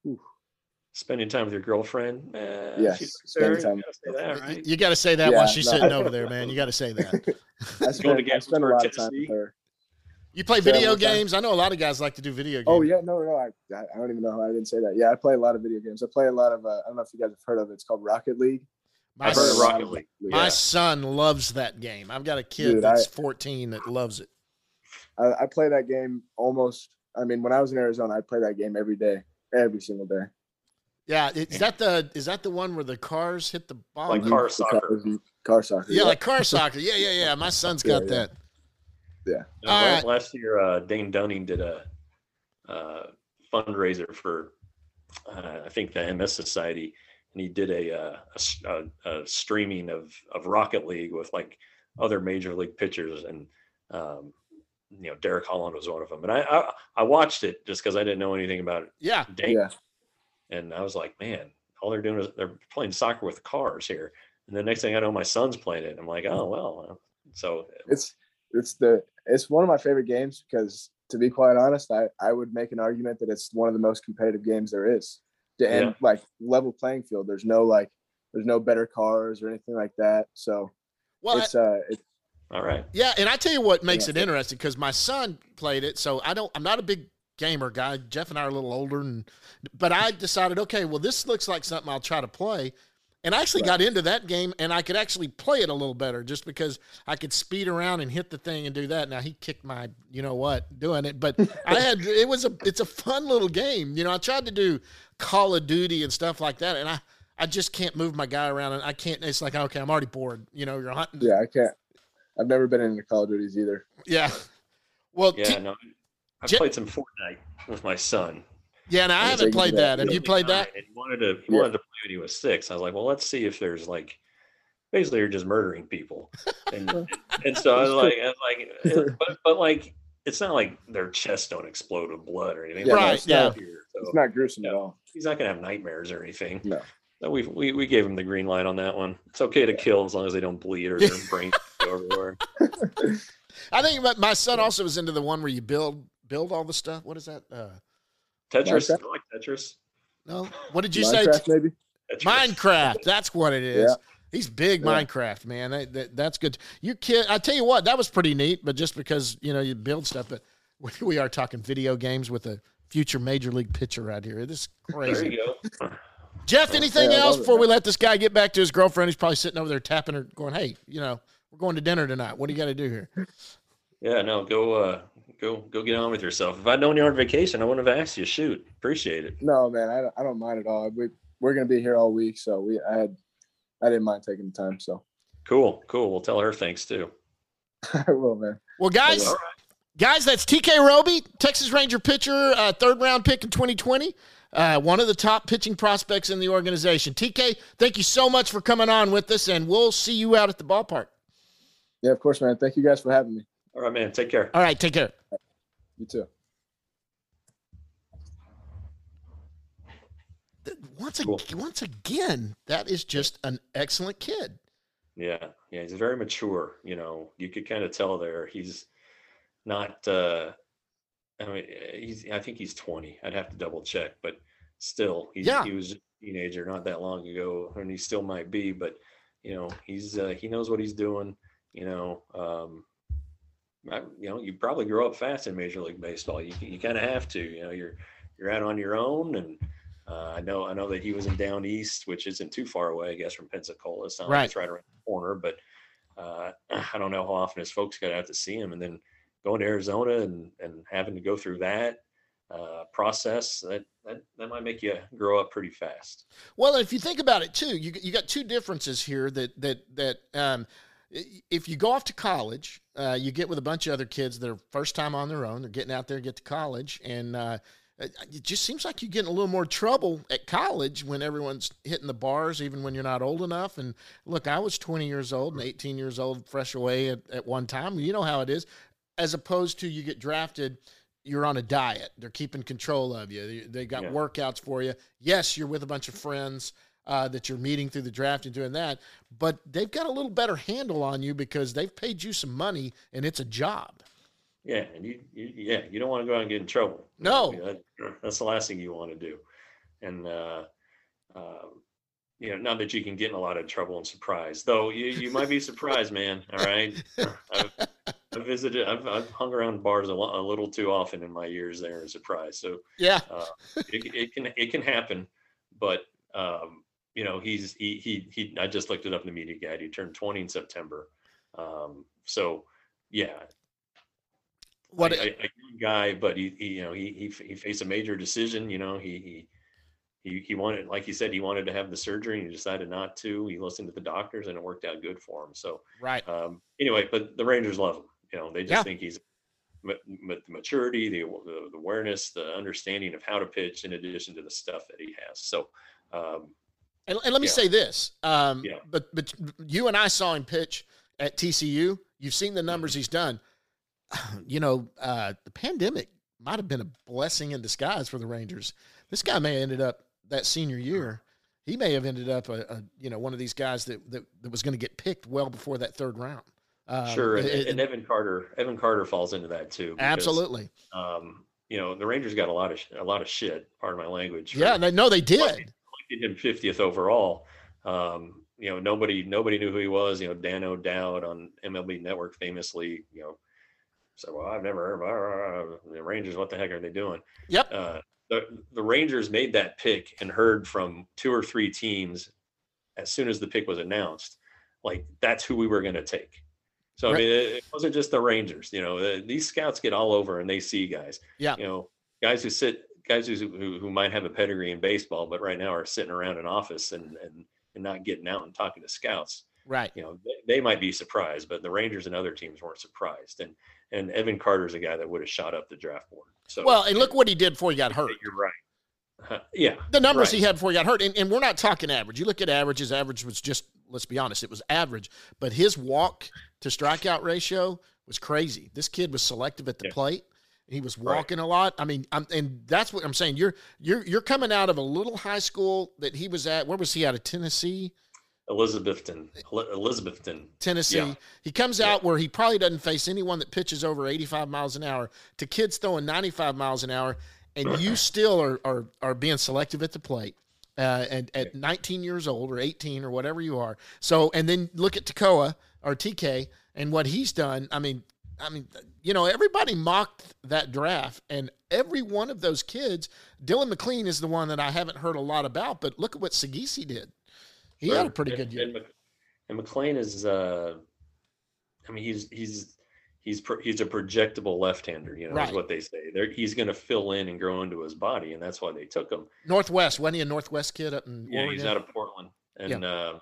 Spending time with your girlfriend. Eh, Yes, she's spending necessary. time. You gotta say that, right? You got to say that Yeah, while she's no. sitting over there, man. You got to say that. I Going spend, to I spend a Gettysburg, lot of time Tennessee? with her. You play Say that video one more time. games? I know a lot of guys like to do video games. Oh yeah, no, no, I, I don't even know how I didn't say that. Yeah, I play a lot of video games. I play a lot of. Uh, I don't know if you guys have heard of it. It's called Rocket League. My, I've heard of son, Rocket League. my Yeah. son loves that game. I've got a kid Dude, that's I- fourteen that loves it. I, I play that game almost. I mean, when I was in Arizona, I'd play that game every day, every single day. Yeah, is that the is that the one where the cars hit the ball? Like yeah, car The soccer. Car, car soccer. like car soccer. Yeah, yeah, yeah. My son's got Yeah, yeah. that. Yeah. No, All la- right. Last year, uh, Dane Dunning did a uh, fundraiser for, uh, I think, the M S Society, and he did a, uh, a s- a- a streaming of of Rocket League with like other major league pitchers, and um, you know, Derek Holland was one of them. And I I, I watched it just because I didn't know anything about Yeah, Dane, Yeah. and I was like, man, all they're doing is they're playing soccer with cars here. And the next thing I know, my son's playing it. I'm like, oh well. uh, So It's it's the it's one of my favorite games because, to be quite honest, I I would make an argument that it's one of the most competitive games there is. And Yeah. like level playing field. There's no like there's no better cars or anything like that. So well, it's uh it's all right. yeah, and I tell you what makes Yeah. it interesting because my son played it, so I don't. I'm not a big gamer guy. Jeff and I are a little older, and but I decided, okay, well, this looks like something I'll try to play. And I actually Right. got into that game, and I could actually play it a little better just because I could speed around and hit the thing and do that. Now he kicked my, you know what, doing it, but I had it was a it's a fun little game. You know, I tried to do Call of Duty and stuff like that, and I I just can't move my guy around, and I can't. It's like, okay, I'm already bored. You know, you're hunting. yeah, I can't I've never been into Call of Duties either. Yeah. Well, Yeah, T- no, I Je- played some Fortnite with my son, Yeah, and I And haven't so played you- that. Have He you was played nine, that? And he wanted to he Yeah. wanted to play when he was six. I was like, well, let's see if there's like basically you're just murdering people. And and so I was like, I was like, eh, but but like it's not like their chests don't explode with blood or anything. Yeah, Right, no, it's yeah. Not, Here, it's so not gruesome Yeah. at all. he's not gonna have nightmares or anything. No. So we we we gave him the green light on that one. It's okay to kill as long as they don't bleed or their brains go everywhere. I think my, my son also was into the one where you build build all the stuff. What is that? Uh, Tetris, Minecraft? I like Tetris. no, what did you say? Minecraft, maybe. Tetris. Minecraft. That's what it is. Yeah. He's big Yeah. Minecraft, man. That, that, that's good. You kid, I tell you what, that was pretty neat. But just because you know you build stuff, but we, we are talking video games with a future major league pitcher right here. This is There crazy. you go. Jeff, anything Yeah, I else love it, before we man. let this guy get back to his girlfriend? He's probably sitting over there tapping her, going, "Hey, you know, we're going to dinner tonight. What do you got to do here?" Yeah, no, go uh go go get on with yourself. If I'd known you were on vacation, I wouldn't have asked you. Shoot. Appreciate it. No, man, I, don't- I don't mind at all. We we're gonna be here all week, so we I had I didn't mind taking the time. So Cool, cool. We'll tell her thanks too. I will, man. Well, guys, All right. guys, that's T K Roby, Texas Ranger pitcher, uh, third round pick in twenty twenty. Uh, one of the top pitching prospects in the organization. T K, thank you so much for coming on with us, and we'll see you out at the ballpark. Yeah, of course, man. Thank you guys for having me. All right, man. Take care. All right, take care. You too. Th- Once, Cool. ag- once again, that is just an excellent kid. Yeah, yeah, he's very mature. You know, you could kind of tell there. He's not. uh I mean, he's. I think he's twenty. I'd have to double check, but still, he's, Yeah. he was a teenager not that long ago, and he still might be. But you know, he's uh, he knows what he's doing. You know, um, I, you know, you probably grow up fast in Major League Baseball. You you kind of have to. You know, you're you're out on your own, and uh, I know I know that he was in Down East, which isn't too far away, I guess, from Pensacola. It's not like Right. it's right around the corner, but uh, I don't know how often his folks got out to see him, and then going to Arizona and and having to go through that uh, process that, that that might make you grow up pretty fast. Well, if you think about it too, you you got two differences here. That that that um, i- if you go off to college, uh, you get with a bunch of other kids that are first time on their own. They're getting out there, get to college, and uh, it it just seems like you get in a little more trouble at college when everyone's hitting the bars, even when you're not old enough. And look, I was twenty years old and eighteen years old, fresh away at, at one time. You know how it is. As opposed to you get drafted, you're on a diet. They're keeping control of you. They, they got Yeah. workouts for you. Yes, you're with a bunch of friends uh, that you're meeting through the draft and doing that, but they've got a little better handle on you because they've paid you some money and it's a job. Yeah, and you, you yeah, you don't want to go out and get in trouble. You No. know, that- that's the last thing you want to do. And uh, um, you know, not that you can get in a lot of trouble and surprise, though. You you might be surprised, man. All right, I've, I've visited, I've, I've hung around bars a, lo- a little too often in my years there and surprised. So Yeah. uh, it, it can it can happen, but um, you know, he's he he he. I just looked it up in the media guide. He turned twenty in September. Um, so yeah, What? a, a a young guy, but he, he you know he, he he faced a major decision. You know, he he he he wanted, like he said, he wanted to have the surgery, and he decided not to. He listened to the doctors, and it worked out good for him. So right. um, anyway, but the Rangers love him. You know, they just Yeah. think he's ma- ma- the maturity, the, the the awareness, the understanding of how to pitch, in addition to the stuff that he has. So. Um, And, and let me Yeah. say this, um, Yeah. but but you and I saw him pitch at T C U. You've seen the numbers he's done. You know, uh, the pandemic might have been a blessing in disguise for the Rangers. This guy may have ended up that senior year. He may have ended up a, a you know one of these guys that that, that was going to get picked well before that third round. Um, Sure, and, it- and Evan Carter, Evan Carter falls into that too. because, absolutely. Um, you know, the Rangers got a lot of sh- a lot of shit. Pardon my language. for Yeah, they, no, they did. selecting him fiftieth overall. Um, you know, nobody nobody knew who he was. You know, Dan O'Dowd on M L B Network famously, you know, said, "Well, I've never heard of the Rangers. What the heck are they doing?" Yep. Uh, the the Rangers made that pick and heard from two or three teams as soon as the pick was announced, like that's who we were going to take. So Right. I mean, it, it wasn't just the Rangers. You know, uh, these scouts get all over and they see guys. Yeah. You know, guys who sit, guys who who, who might have a pedigree in baseball, but right now are sitting around an office and and and not getting out and talking to scouts. Right. You know, they, they might be surprised, but the Rangers and other teams weren't surprised. And and Evan Carter's a guy that would have shot up the draft board. So Well, and look what he did before he got hurt. you're right. Uh, yeah. The numbers right. he had before he got hurt, and, and we're not talking average. You look at average, his average was just, let's be honest, it was average. But his walk to strikeout ratio was crazy. This kid was selective at the yeah. plate. He was walking right. a lot. I mean, I'm, and that's what I'm saying. You're you're you're coming out of a little high school that he was at. Where was he out of Tennessee? Elizabethton, Elizabethton, Tennessee. Yeah. He comes out yeah. where he probably doesn't face anyone that pitches over eighty-five miles an hour to kids throwing ninety-five miles an hour, and you still are are, are being selective at the plate. Uh, and at yeah. nineteen years old or eighteen or whatever you are. So, and then look at Tekoa or T K and what he's done. I mean, I mean, you know, everybody mocked that draft, and every one of those kids, Dylan McLean is the one that I haven't heard a lot about, but look at what Sagisi did. He sure. had a pretty and, good year. And, and McLean is, uh, I mean, he's he's he's pro, he's a projectable left-hander. You know, right. is what they say. They're, he's going to fill in and grow into his body, and that's why they took him. Northwest, wasn't he a Northwest kid up in Yeah, Oregon? he's out of Portland, and yeah. uh,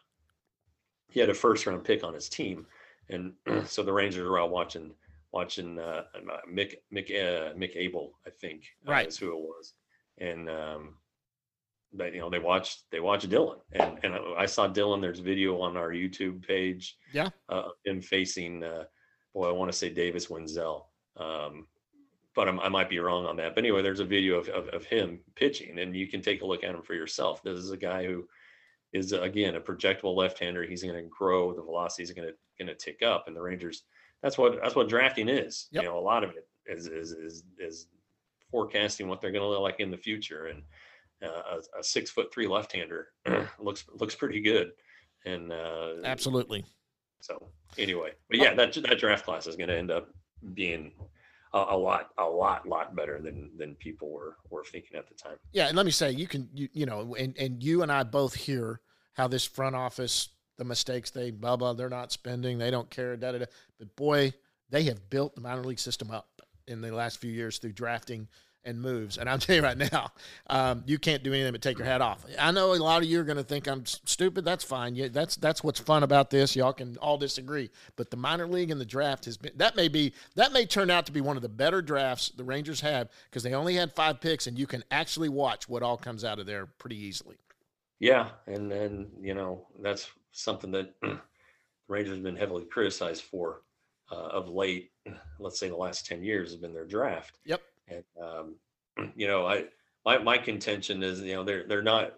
he had a first-round pick on his team, and so the Rangers were out watching. Watching uh, Mick Mick uh, Mick Abel, I think, uh, right. is who it was, and um, they you know they watched they watched Dylan, and and I saw Dylan. There's video on our YouTube page, yeah, uh, him facing, uh, boy, I want to say Davis Wenzel, um, but I'm, I might be wrong on that. But anyway, there's a video of, of of him pitching, and you can take a look at him for yourself. This is a guy who is again a projectable left-hander. He's going to grow. The velocity is going to going to tick up, and the Rangers. That's what that's what drafting is. Yep. You know, a lot of it is is is, is forecasting what they're going to look like in the future. And uh, a, a six foot three left-hander looks looks pretty good. And uh, absolutely. So anyway, but yeah, that that draft class is going to end up being a, a lot a lot lot better than than people were were thinking at the time. Yeah, and let me say, you can you you know, and and you and I both hear how this front office. The mistakes they blah blah they're not spending, they don't care, da da da. But boy, they have built the minor league system up in the last few years through drafting and moves. And I'll tell you right now, um, you can't do anything but take your hat off. I know a lot of you are going to think I'm stupid. That's fine. Yeah, that's that's what's fun about this. Y'all can all disagree. But the minor league and the draft has been that may be that may turn out to be one of the better drafts the Rangers have because they only had five picks, and you can actually watch what all comes out of there pretty easily. Yeah, and then you know that's something that the Rangers have been heavily criticized for uh, of late. Let's say the last ten years has been their draft. Yep. And um, you know, I my my contention is you know they're they're not.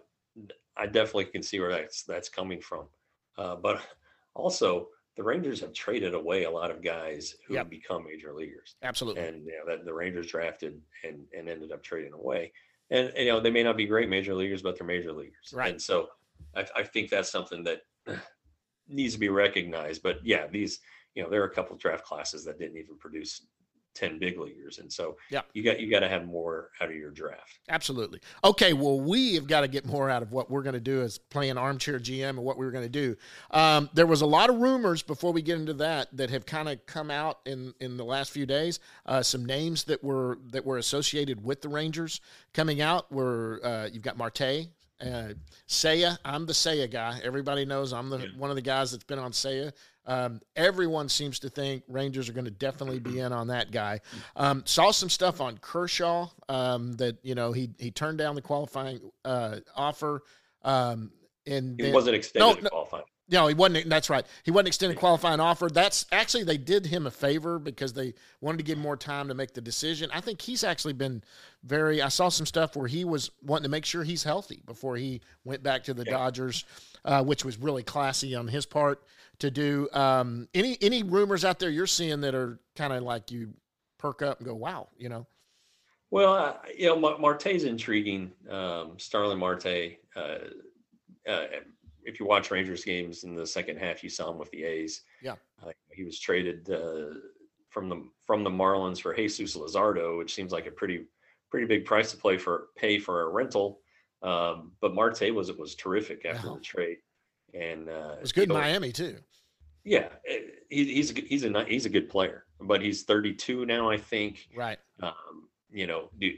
I definitely can see where that's that's coming from, uh, but also the Rangers have traded away a lot of guys who yep. have become major leaguers. Absolutely. And you know that the Rangers drafted and and ended up trading away. And, and you know they may not be great major leaguers, but they're major leaguers. Right. And so I, I think that's something that needs to be recognized. But yeah, these, you know, there are a couple of draft classes that didn't even produce ten big leaguers. And so yeah, you got, you got to have more out of your draft. Absolutely. Okay. Well, we have got to get more out of what we're going to do as playing armchair G M and what we were going to do. Um, there was a lot of rumors before we get into that, that have kind of come out in, in the last few days. Uh, some names that were, that were associated with the Rangers coming out were, uh, you've got Marte, Uh, Seiya, I'm the Seiya guy. Everybody knows I'm the yeah. one of the guys that's been on Seiya. Um, everyone seems to think Rangers are going to definitely be in on that guy. Um, saw some stuff on Kershaw um, that you know he he turned down the qualifying uh, offer. Um, and he then, wasn't extended no, no, qualifying. No, he wasn't. That's right. He wasn't extending qualifying offer. That's actually, they did him a favor because they wanted to give him more time to make the decision. I think he's actually been very, I saw some stuff where he was wanting to make sure he's healthy before he went back to the yeah. Dodgers, uh, which was really classy on his part to do. Um, any, any rumors out there you're seeing that are kind of like you perk up and go, wow, you know? Well, uh, you know, Marte's intriguing. Um, Starling Marte, uh, uh, if you watch Rangers games in the second half, you saw him with the A's. Yeah, uh, he was traded uh, from the from the Marlins for Jesus Luzardo, which seems like a pretty pretty big price to play for pay for a rental. Um, but Marte was was terrific after yeah. the trade, and uh, it was good in know, Miami too. Yeah, he, he's a, he's a he's a good player, but he's thirty-two now, I think. Right. Um, you know, do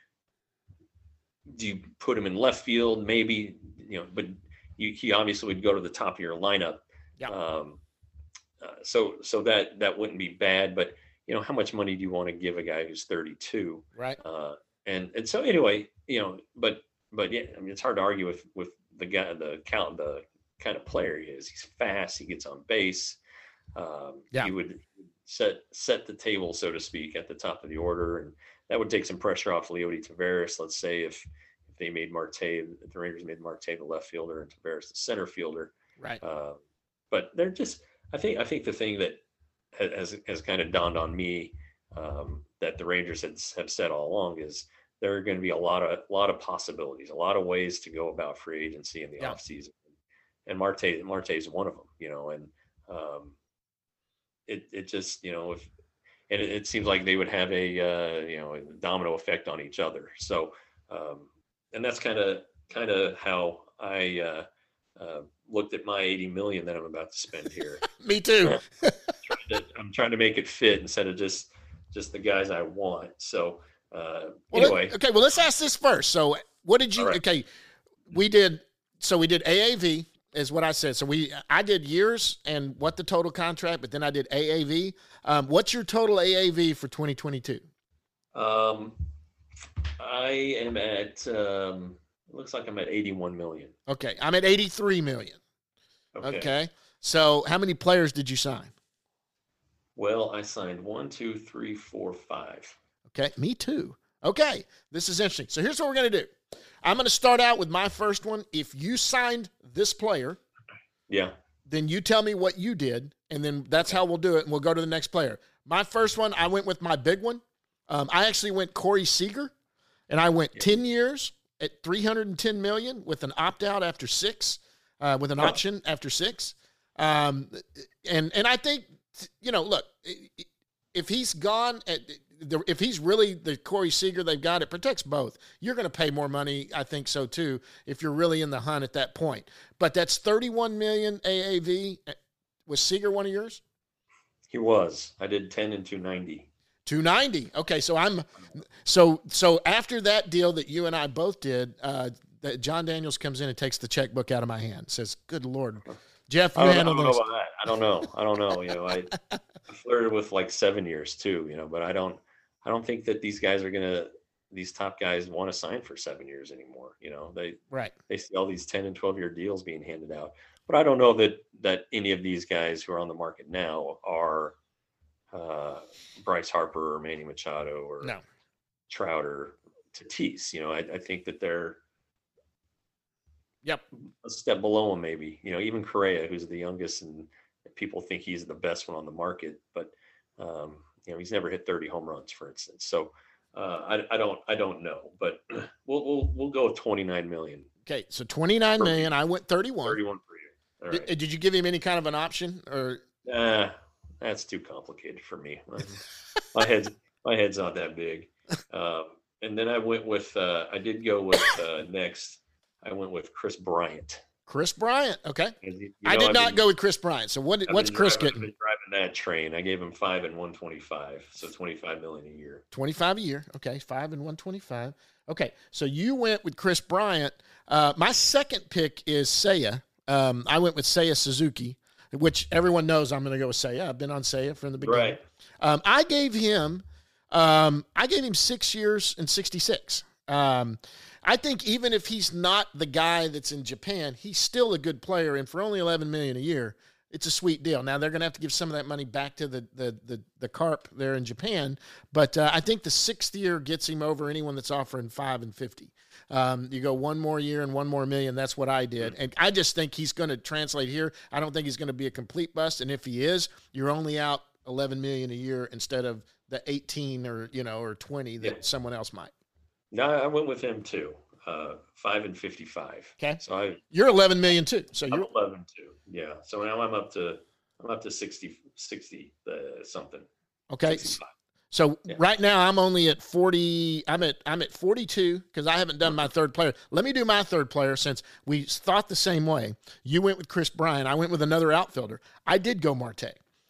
do you put him in left field? Maybe, you know, but. You, he obviously would go to the top of your lineup. Yeah. Um, uh, so so that that wouldn't be bad, but you know, how much money do you want to give a guy who's thirty-two? Right. Uh, and and so anyway, you know, but but yeah, I mean, it's hard to argue with with the guy, the count, the kind of player he is. He's fast. He gets on base. Um, Yeah. He would set set the table, so to speak, at the top of the order, and that would take some pressure off Leody Taveras. Let's say if if they made Marte, if the Rangers made Marte the left fielder and Taveras the center fielder. Right. Uh, but they're just, I think, I think the thing that has has kind of dawned on me um, that the Rangers had, have said all along is there are going to be a lot of a lot of possibilities, a lot of ways to go about free agency in the Yeah. offseason. And Marte Marte is one of them, you know, and um, it it just, you know, if and it, it seems like they would have a uh, you know, a domino effect on each other. So um, and that's kind of kind of how I uh, uh, looked at my eighty million that I'm about to spend here. Me too. trying to, I'm trying to make it fit instead of just just the guys I want. So uh, Well, anyway, let- okay. Well, let's ask this first. So, what did you? All right. Okay, we did. So we did A A V, is what I said. So we, I did years and what the total contract, but then I did A A V. Um, what's your total A A V for twenty twenty-two? um, I am at. Um, it looks like I'm at eighty-one million. Okay, I'm at eighty-three million. Okay. Okay. So how many players did you sign? Well, I signed one, two, three, four, five. Okay, me too. Okay, this is interesting. So here's what we're going to do. I'm going to start out with my first one. If you signed this player, Yeah. then you tell me what you did, and then that's how we'll do it, and we'll go to the next player. My first one, I went with my big one. Um, I actually went Corey Seager, and I went ten years at three hundred ten million dollars with an opt-out after six, uh, with an Huh. option after six. Um, and and I think, you know, look, if he's gone at if he's really the Corey Seager they've got, it protects both. You're going to pay more money, I think so too, if you're really in the hunt at that point. But that's thirty-one million A A V. Was Seager one of yours? He was. I did ten and two ninety. two ninety. Okay, so I'm so so after that deal that you and I both did, uh, that John Daniels comes in and takes the checkbook out of my hand. Says, "Good Lord, Jeff, you I don't, I handle don't know this." about that. I don't know. I don't know. You know, I, I flirted with like seven years too. You know, but I don't. I don't think that these guys are gonna. These top guys want to sign for seven years anymore. You know, they Right. they see all these ten and twelve year deals being handed out. But I don't know that that any of these guys who are on the market now are uh, Bryce Harper or Manny Machado or No. Trout or Tatis. You know, I, I think that they're Yep. a step below him, maybe. You know, even Correa, who's the youngest, and people think he's the best one on the market, but um, you know, he's never hit thirty home runs, for instance. So uh, I, I don't, I don't know, but we'll we'll we'll go with twenty-nine million, Okay, so twenty-nine million. I went thirty-one. thirty-one for you. All Did, right. did you give him any kind of an option or? Uh, that's too complicated for me. my head's my head's not that big. Um, and then I went with uh, I did go with uh, next. I went with Chris Bryant. Chris Bryant? Okay, You- you I know, did I've not been- go with Chris Bryant. So what? I've What's been Chris driving, getting? I've been driving that train. I gave him five and one twenty-five, so twenty-five million a year. twenty-five a year. Okay, five and one twenty-five. Okay, so you went with Chris Bryant. Uh, my second pick is Seiya. Um, I went with Seiya Suzuki, which everyone knows I'm going to go with Seiya. I've been on Seiya from the beginning. Right. Um, I gave him, um, I gave him six years and sixty-six. Um, I think even if he's not the guy that's in Japan, he's still a good player, and for only eleven million a year, it's a sweet deal. Now they're going to have to give some of that money back to the the the, the carp there in Japan, but uh, I think the sixth year gets him over anyone that's offering five and fifty. Um, you go one more year and one more million. That's what I did, and I just think he's going to translate here. I don't think he's going to be a complete bust, and if he is, you're only out eleven million a year instead of the eighteen or you know or twenty that Yeah. someone else might. No, I went with him too. Uh, five and fifty-five. Okay. So I You're eleven million too. So I'm you're eleven too. Yeah. So now I'm up to I'm up to sixty sixty uh, something. okay. sixty-five. So Yeah. right now I'm only at forty. I'm at I'm at forty-two because I haven't done my third player. Let me do my third player since we thought the same way. You went with Chris Bryant. I went with another outfielder. I did go Marte.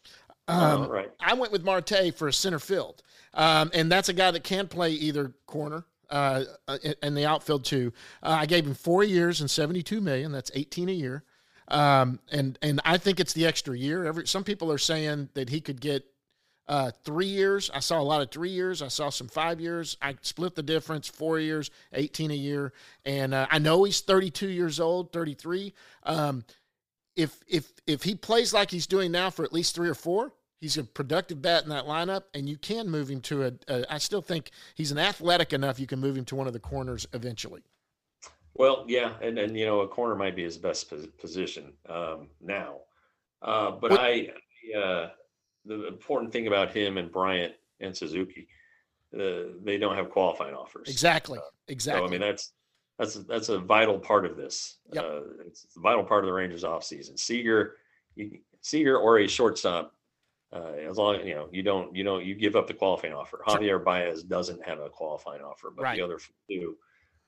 Um, All right. I went with Marte for a center field, um, and that's a guy that can play either corner uh, in the outfield too. Uh, I gave him four years and seventy-two million. That's eighteen a year, um, and and I think it's the extra year. Every some people are saying that he could get Uh, three years. I saw a lot of three years. I saw some five years. I split the difference, four years, eighteen a year. And uh, I know he's thirty-two years old, thirty-three. Um, if if if he plays like he's doing now for at least three or four, he's a productive bat in that lineup, and you can move him to a, a I still think he's an athletic enough you can move him to one of the corners eventually. Well, yeah, and, and you know, a corner might be his best pos- position um, now. Uh, but What- I, uh, the important thing about him and Bryant and Suzuki, uh, they don't have qualifying offers. Exactly. Exactly. So I mean, that's that's that's a vital part of this. Yep. Uh, it's a vital part of the Rangers offseason. Seager, you, Seager or a shortstop, uh, as long as you know you don't you don't you give up the qualifying offer. Sure. Javier Baez doesn't have a qualifying offer, but Right. the other do.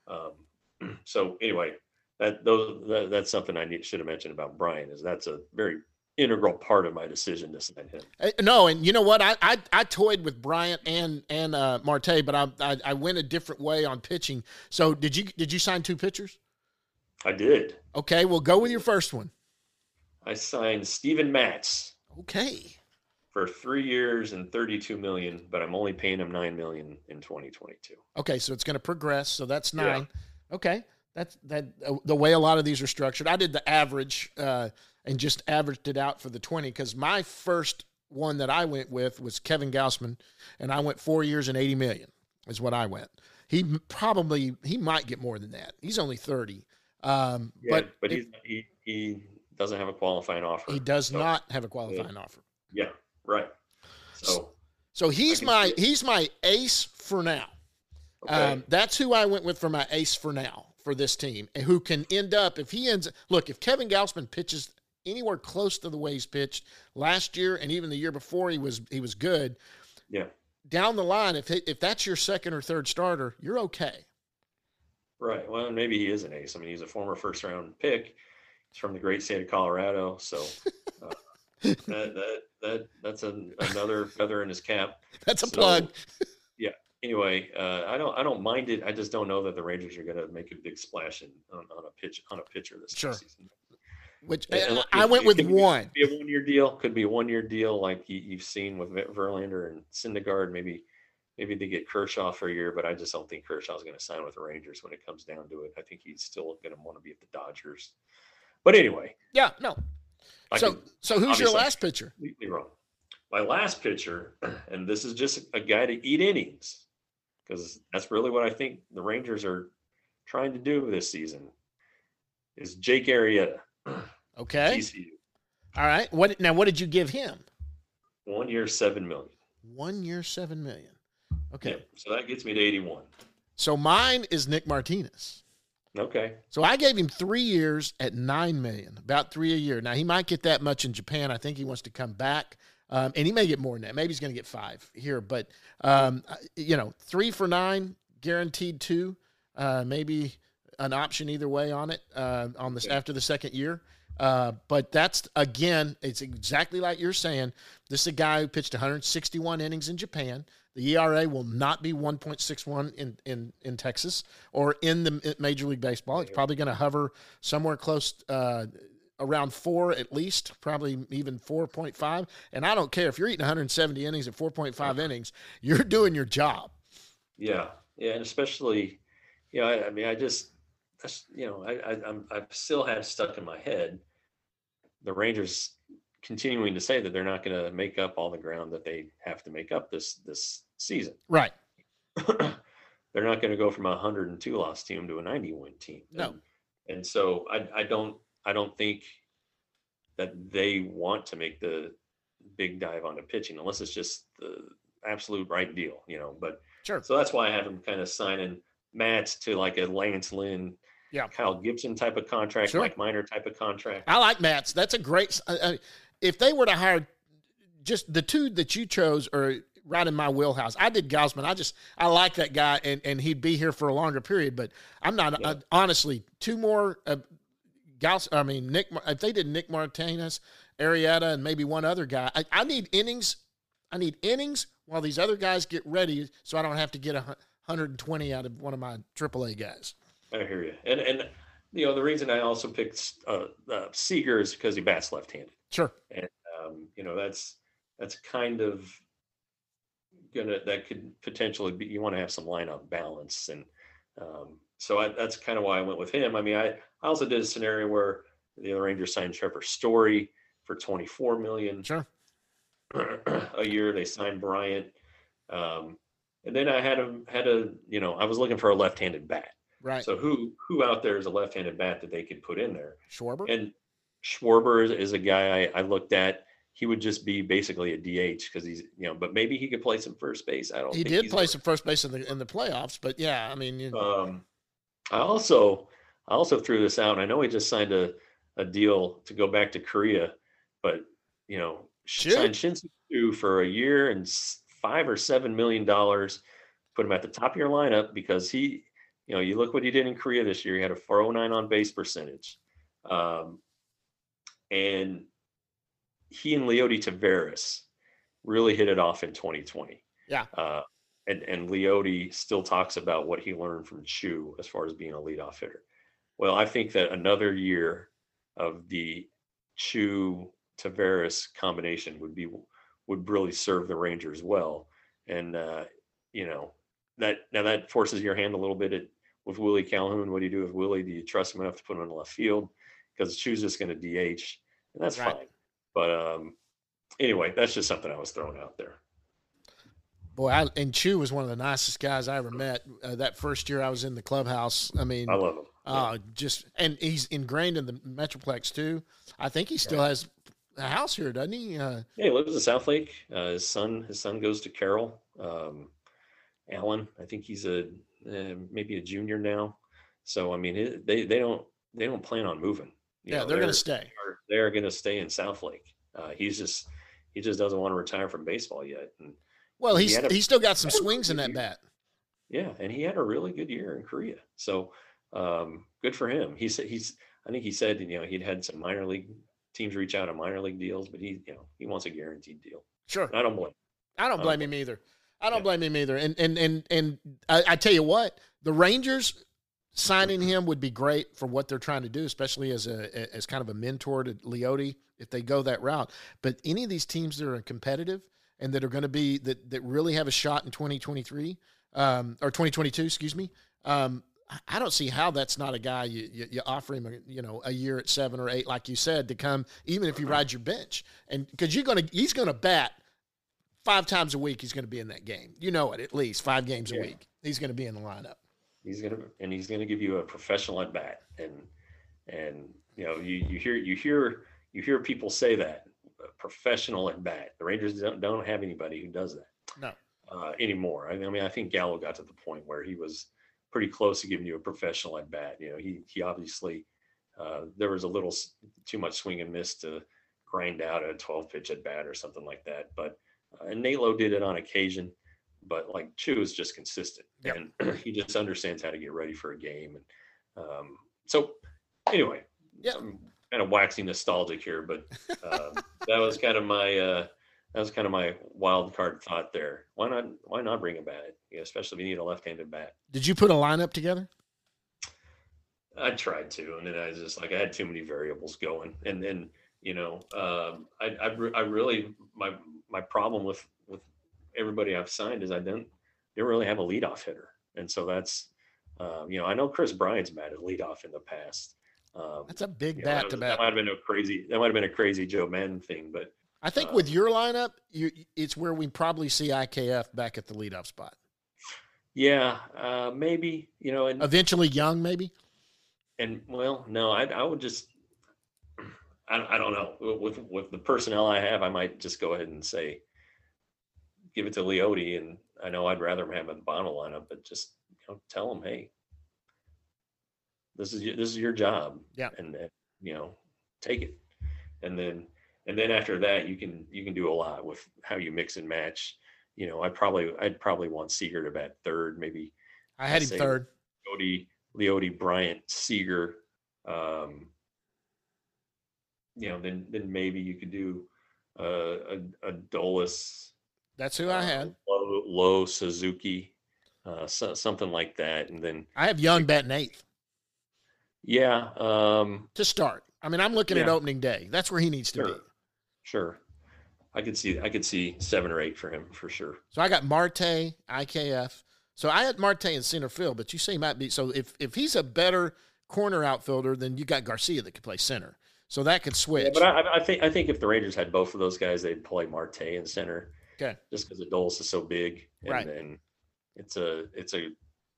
Um, so anyway, that those that, that's something I need, should have mentioned about Brian is that's a very integral part of my decision to sign him. Uh, No, and you know what? I I, I toyed with Bryant and and uh, Marte, but I, I I went a different way on pitching. So did you did you sign two pitchers? I did. Okay, well go with your first one. I signed Steven Matz Okay. for three years and thirty-two million, but I'm only paying him nine million in twenty twenty-two. Okay, so it's going to progress. So that's Yeah. nine. Okay, that's that uh, the way a lot of these are structured. I did the average uh, and just averaged it out for the twenty because my first one that I went with was Kevin Gausman, and I went four years and eighty million is what I went. He m- probably he might get more than that. He's only thirty, um, Yeah, but but it- he's, he he doesn't have a qualifying offer. he does So, not have a qualifying offer. Yeah, right. So So he's can my see it. he's my ace for now. okay. Um, that's who I went with for my ace for now for this team, and who can end up if he ends. Look, if Kevin Gausman pitches anywhere close to the way he's pitched last year and even the year before, he was he was good. yeah, Down the line, if he, if that's your second or third starter, you're okay. right. Well, maybe he is an ace. I mean, he's a former first round pick. He's from the great state of Colorado, so uh, that that that that's an, another feather in his cap. That's a So, plug. Yeah. Anyway, uh, I don't I don't mind it. I just don't know that the Rangers are going to make a big splash in, on, on a pitch on a pitcher this Sure. season. Which And- I and went it with could be- one. Be a one year deal. Could be a one year deal like you, you've seen with Ver- Verlander and Syndergaard. Maybe maybe they get Kershaw for a year, but I just don't think Kershaw's going to sign with the Rangers when it comes down to it. I think he's still going to want to be at the Dodgers. But anyway, Yeah, no. I So could so who's your obviously- last pitcher? completely wrong. My last pitcher, and this is just a guy to eat innings, because that's really what I think the Rangers are trying to do this season, is Jake Arrieta, Okay. T C U. All right. What now? What did you give him? One year, seven million. One year, seven million. Okay. Yeah, so that gets me to eighty-one. So mine is Nick Martinez. Okay. So I gave him three years at nine million, about three a year. Now he might get that much in Japan. I think he wants to come back, um, and he may get more than that. Maybe he's going to get five here, but um, you know, three for nine, guaranteed two. Uh, maybe an option either way on it uh, on this Okay. after the second year. Uh, but that's again, it's exactly like you're saying. This is a guy who pitched one hundred sixty-one innings in Japan. The E R A will not be one point six one in, in, in Texas or in the Major League Baseball. It's probably going to hover somewhere close uh, around four at least, probably even four point five. And I don't care if you're eating one hundred seventy innings at four point five innings, you're doing your job. Yeah. Yeah. And especially, you know, I, I mean, I just, that's, you know, I, I, I'm, I still have stuck in my head the Rangers continuing to say that they're not going to make up all the ground that they have to make up this, this season. Right. They're not going to go from a one hundred two loss team to a ninety win team. No. And, and so I, I don't, I don't think that they want to make the big dive onto pitching unless it's just the absolute right deal, you know, but Sure. so that's why I have him kind of signing Matz to like a Lance Lynn, Yeah. Kyle Gibson type of contract, Sure. Mike Minor type of contract. I like Matt's. That's a great. Uh, uh, if they were to hire just the two that you chose are right in my wheelhouse. I did Gausman. I just I like that guy, and, and he'd be here for a longer period. But I'm not Yeah. uh, honestly two more. Uh, Gaus. I mean Nick. If they did Nick Martinez, Arrieta, and maybe one other guy, I, I need innings. I need innings while these other guys get ready, so I don't have to get a one hundred twenty out of one of my triple A guys. I hear you. And, and, you know, the reason I also picked uh, uh, Seager is because he bats left-handed. Sure. Um, you know, that's, that's kind of gonna that could potentially be. You want to have some lineup balance, and um, so I, that's kind of why I went with him. I mean, I, I also did a scenario where the Rangers signed Trevor Story for twenty-four million Sure. a year. They signed Bryant, um, and then I had a had a you know I was looking for a left-handed bat. Right. So who who out there is a left-handed bat that they could put in there? Schwarber. And Schwarber is, is a guy I, I looked at. He would just be basically a D H because he's, you know, but maybe he could play some first base. I don't. He think did he's play a- some first base in the in the playoffs, but yeah, I mean, you, Um, I also I also threw this out. And I know he just signed a, a deal to go back to Korea, but you know, Sure. signed Shin-Soo Choo for a year and s- five or seven million dollars. Put him at the top of your lineup because he, you know, you look what he did in Korea this year. He had a four oh nine on base percentage, um, and he and Leody Taveras really hit it off in twenty twenty. Yeah. Uh, and, and Leody still talks about what he learned from Chu as far as being a leadoff hitter. Well, I think that another year of the Chu Taveras combination would be would really serve the Rangers well. And uh, you know, that now that forces your hand a little bit at, with Willie Calhoun. What do you do with Willie? Do you trust him enough to put him in left field? Because Chu's just going to D H, and that's Right. fine. But um, anyway, that's just something I was throwing out there. boy, I, and Chu was one of the nicest guys I ever met. Uh, that first year I was in the clubhouse. I mean, I love him. uh, just and he's ingrained in the Metroplex too. I think he still has a house here, doesn't he? Uh, Yeah, he lives in South Lake. Uh, his son, his son goes to Carroll. Um, Allen, I think he's a uh, maybe a junior now. So I mean, it, they they don't they don't plan on moving. You yeah, know, they're going to stay. They're, they're going to stay in South Lake. Uh, he's just he just doesn't want to retire from baseball yet. And Well, he he's had a- he's still got some he had a swings in really that good bat. yeah, and he had a really good year in Korea. So um, good for him. He said he's I think he said you know he'd had some minor league teams reach out on minor league deals, but he you know he wants a guaranteed deal. Sure, And I don't blame. I don't I blame don't- him either. I don't Yeah. blame him either. And and and and I, I tell you what, the Rangers signing him would be great for what they're trying to do, especially as a as kind of a mentor to Leody if they go that route. But any of these teams that are competitive and that are going to be that that really have a shot in twenty twenty-three um, or twenty twenty-two, excuse me. Um, I- I don't see how that's not a guy you, you, you offer him, a, you know, a year at seven or eight, like you said, to come, even if you ride your bench, and because you're gonna he's gonna bat. Five times a week, he's going to be in that game. You know it, at least five games Yeah. a week. He's going to be in the lineup. He's gonna and he's gonna give you a professional at bat, and and you know you you hear you hear you hear people say that a professional at bat. The Rangers don't don't have anybody who does that No. uh, anymore. I mean, I think Gallo got to the point where he was pretty close to giving you a professional at bat. You know, he he obviously uh, there was a little s- too much swing and miss to grind out a twelve pitch at bat or something like that. But uh, and Nalo did it on occasion. But like Chu is just consistent, Yep. and he just understands how to get ready for a game. And um, so, anyway, Yeah. I'm kind of waxing nostalgic here, but um, that was kind of my uh, that was kind of my wild card thought there. Why not? Why not bring a bat? You know, especially if you need a left-handed bat. Did you put a lineup together? I tried to, and then I was just like I had too many variables going, and then you know, um, I, I re- I really my my problem with with everybody I've signed is I don't they don't really have a leadoff hitter, and so that's um, you know I know Chris Bryant's batted leadoff in the past. Um, That's a big you know, bat that, to was- that bat. might have been a crazy that might have been a crazy Joe Madden thing, but I think uh, with your lineup, you it's where we probably see I K F back at the leadoff spot. yeah, uh, maybe you know, and Eventually, Young maybe. and well, no, I I would just I I don't know with with the personnel I have, I might just go ahead and say give it to Leody, and I know I'd rather him have a Bono lineup, but just you know, tell him, hey, this is your, this is your job, Yeah. and, and you know, take it, and then and then after that, you can you can do a lot with how you mix and match. You know, I probably I'd probably want Seager to bat third, maybe I had him Say- third. Leody, Leody, Bryant, Seager. Um, you know, then then maybe you could do uh, a a Dolus. That's who I uh, had. Low, low Suzuki, uh, so, something like that, and then I have Young batting eighth yeah, um, to start. I mean, I'm looking at Yeah. opening day. That's where he needs to be. sure, sure. I could see I could see seven or eight for him for sure. So I got Marte, I K F. So I had Marte in center field, but you say he might be. So if if he's a better corner outfielder, then you got Garcia that could play center. So that could switch. Yeah, but I, I think I think if the Rangers had both of those guys, they'd play Marte in center. Okay. Just because Adolis is so big, and Right. then it's a it's a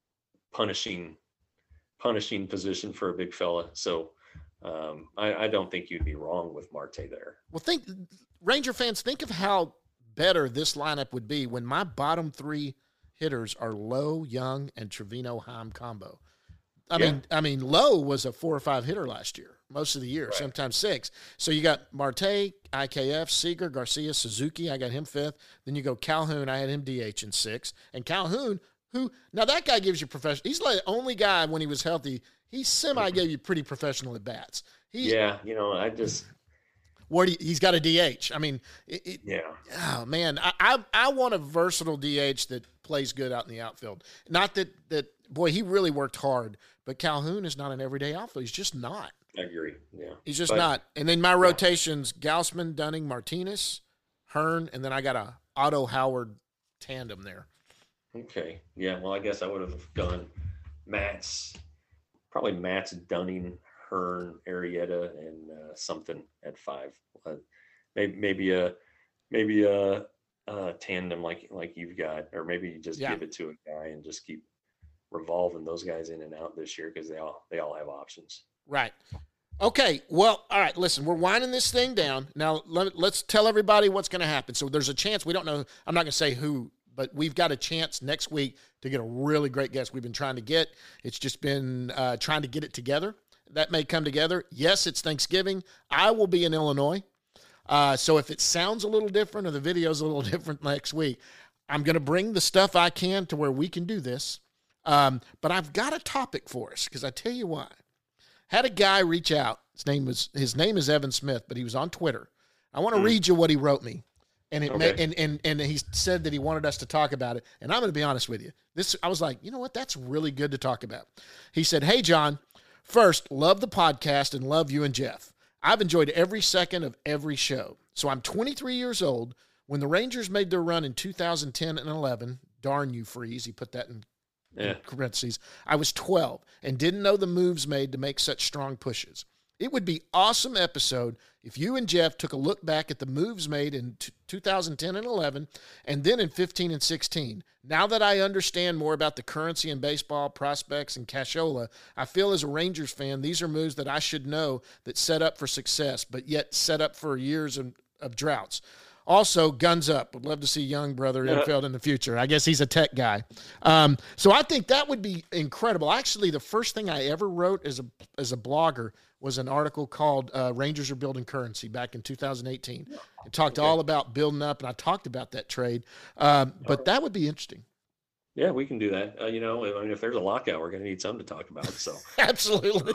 punishing punishing position for a big fella. So um, I, I don't think you'd be wrong with Marte there. Well, think Ranger fans, think of how better this lineup would be when my bottom three hitters are Lowe, Young, and Trevino Heim combo. I Yeah. mean, I mean, Lowe was a four or five hitter last year, most of the year, Right. sometimes six. So you got Marte, I K F, Seager, Garcia, Suzuki. I got him fifth. Then you go Calhoun. I had him D H in six. And Calhoun, who now that guy gives you professional. He's like the only guy when he was healthy. He semi gave you pretty professional at bats. He's, Yeah, you know, I just What do you, he's got a D H. I mean, it, it, yeah. oh man, I, I I want a versatile D H that plays good out in the outfield. Not that that boy, he really worked hard, but Calhoun is not an everyday outfield. He's just not. I agree. Yeah. He's just But- not. And then my rotations: Gausman, Dunning, Martinez, Hearn, and then I got a Otto Howard tandem there. Okay. Yeah. Well, I guess I would have gone Matt's, probably Matt's, Dunning, Hearn, Arrieta, and uh, something at five. Uh, maybe maybe a maybe a, a tandem like like you've got, or maybe you just Yeah. give it to a guy and just keep revolving those guys in and out this year because they all they all have options. Right. Okay. Well, all right. Listen, we're winding this thing down. Now, let, let's tell everybody what's going to happen. So there's a chance, we don't know, I'm not going to say who, but we've got a chance next week to get a really great guest we've been trying to get. It's just been uh, trying to get it together. That may come together. Yes, it's Thanksgiving. I will be in Illinois. Uh, so if it sounds a little different or the video's a little different next week, I'm going to bring the stuff I can to where we can do this. Um, but I've got a topic for us because I tell you why. Had a guy reach out. His name was his name is Evan Smith, but he was on Twitter. I want to Mm. read you what he wrote me, and it Okay. ma- and and and he said that he wanted us to talk about it. And I'm going to be honest with you. This I was like, you know what? That's really good to talk about. He said, "Hey John, first, love the podcast and love you and Jeff. I've enjoyed every second of every show. So I'm twenty-three years old. When the Rangers made their run in two thousand ten and eleven, darn you, Freeze. He put that in Yeah. in parentheses, I was twelve and didn't know the moves made to make such strong pushes. It would be awesome episode if you and Jeff took a look back at the moves made in t- two thousand ten and eleven and then in fifteen and sixteen. Now that I understand more about the currency in baseball, prospects, and cashola, I feel as a Rangers fan, these are moves that I should know that set up for success, but yet set up for years of, of droughts. Also, guns up. Would love to see young brother infield in the future. I guess he's a tech guy. Um, so I think that would be incredible. Actually, the first thing I ever wrote as a as a blogger was an article called uh, Rangers Are Building Currency back in two thousand eighteen. It talked Okay. all about building up, and I talked about that trade. Um, but that would be interesting. Yeah, we can do that. Uh, you know, I mean, if there's a lockout, we're going to need something to talk about. So Absolutely.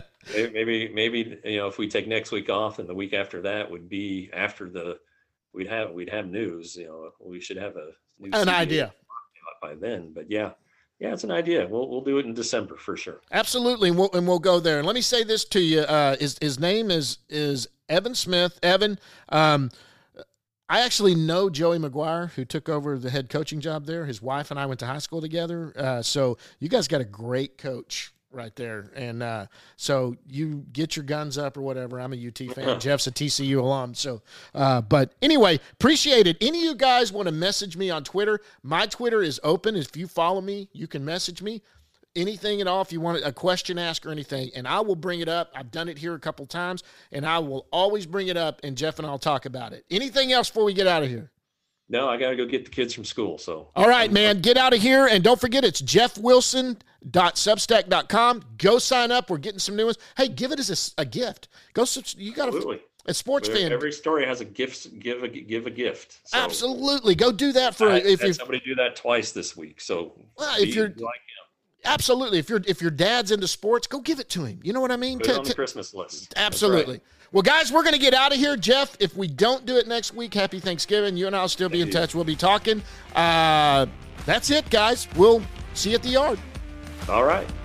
maybe, maybe, you know, if we take next week off and the week after that would be after the, we'd have, we'd have news, you know, we should have a new An C B A idea. lockout by then, but yeah, yeah, it's an idea. We'll, we'll do it in December for sure. Absolutely, and we'll, and we'll go there. And let me say this to you: uh, his his name is is Evan Smith. Evan, um, I actually know Joey McGuire, who took over the head coaching job there. His wife and I went to high school together. Uh, so you guys got a great coach right there. And uh, so you get your guns up or whatever. I'm a U T fan. Jeff's a T C U alum. So, uh, but anyway, appreciate it. Any of you guys want to message me on Twitter? My Twitter is open. If you follow me, you can message me. Anything at all, if you want a question asked or anything, and I will bring it up. I've done it here a couple times, and I will always bring it up, and Jeff and I'll talk about it. Anything else before we get out of here? No, I got to go get the kids from school. So, All right, man, get out of here, and don't forget it's jeff wilson dot substack dot com. Go sign up. We're getting some new ones. Hey, give it as a, a gift. Go, subs- you got absolutely. a, a sports fan. Every story has a gift. Give a give a gift. So Absolutely, go do that for I if had you. somebody do that twice this week. So Well, if be you're- like him, Absolutely, if your if your dad's into sports, go give it to him. You know what I mean? put it To- on the to- Christmas list. That's Absolutely. right. Well, guys, we're going to get out of here. Jeff, if we don't do it next week, happy Thanksgiving. You and I will still be in Thank you. touch. We'll be talking. Uh, that's it, guys. We'll see you at the yard. All right.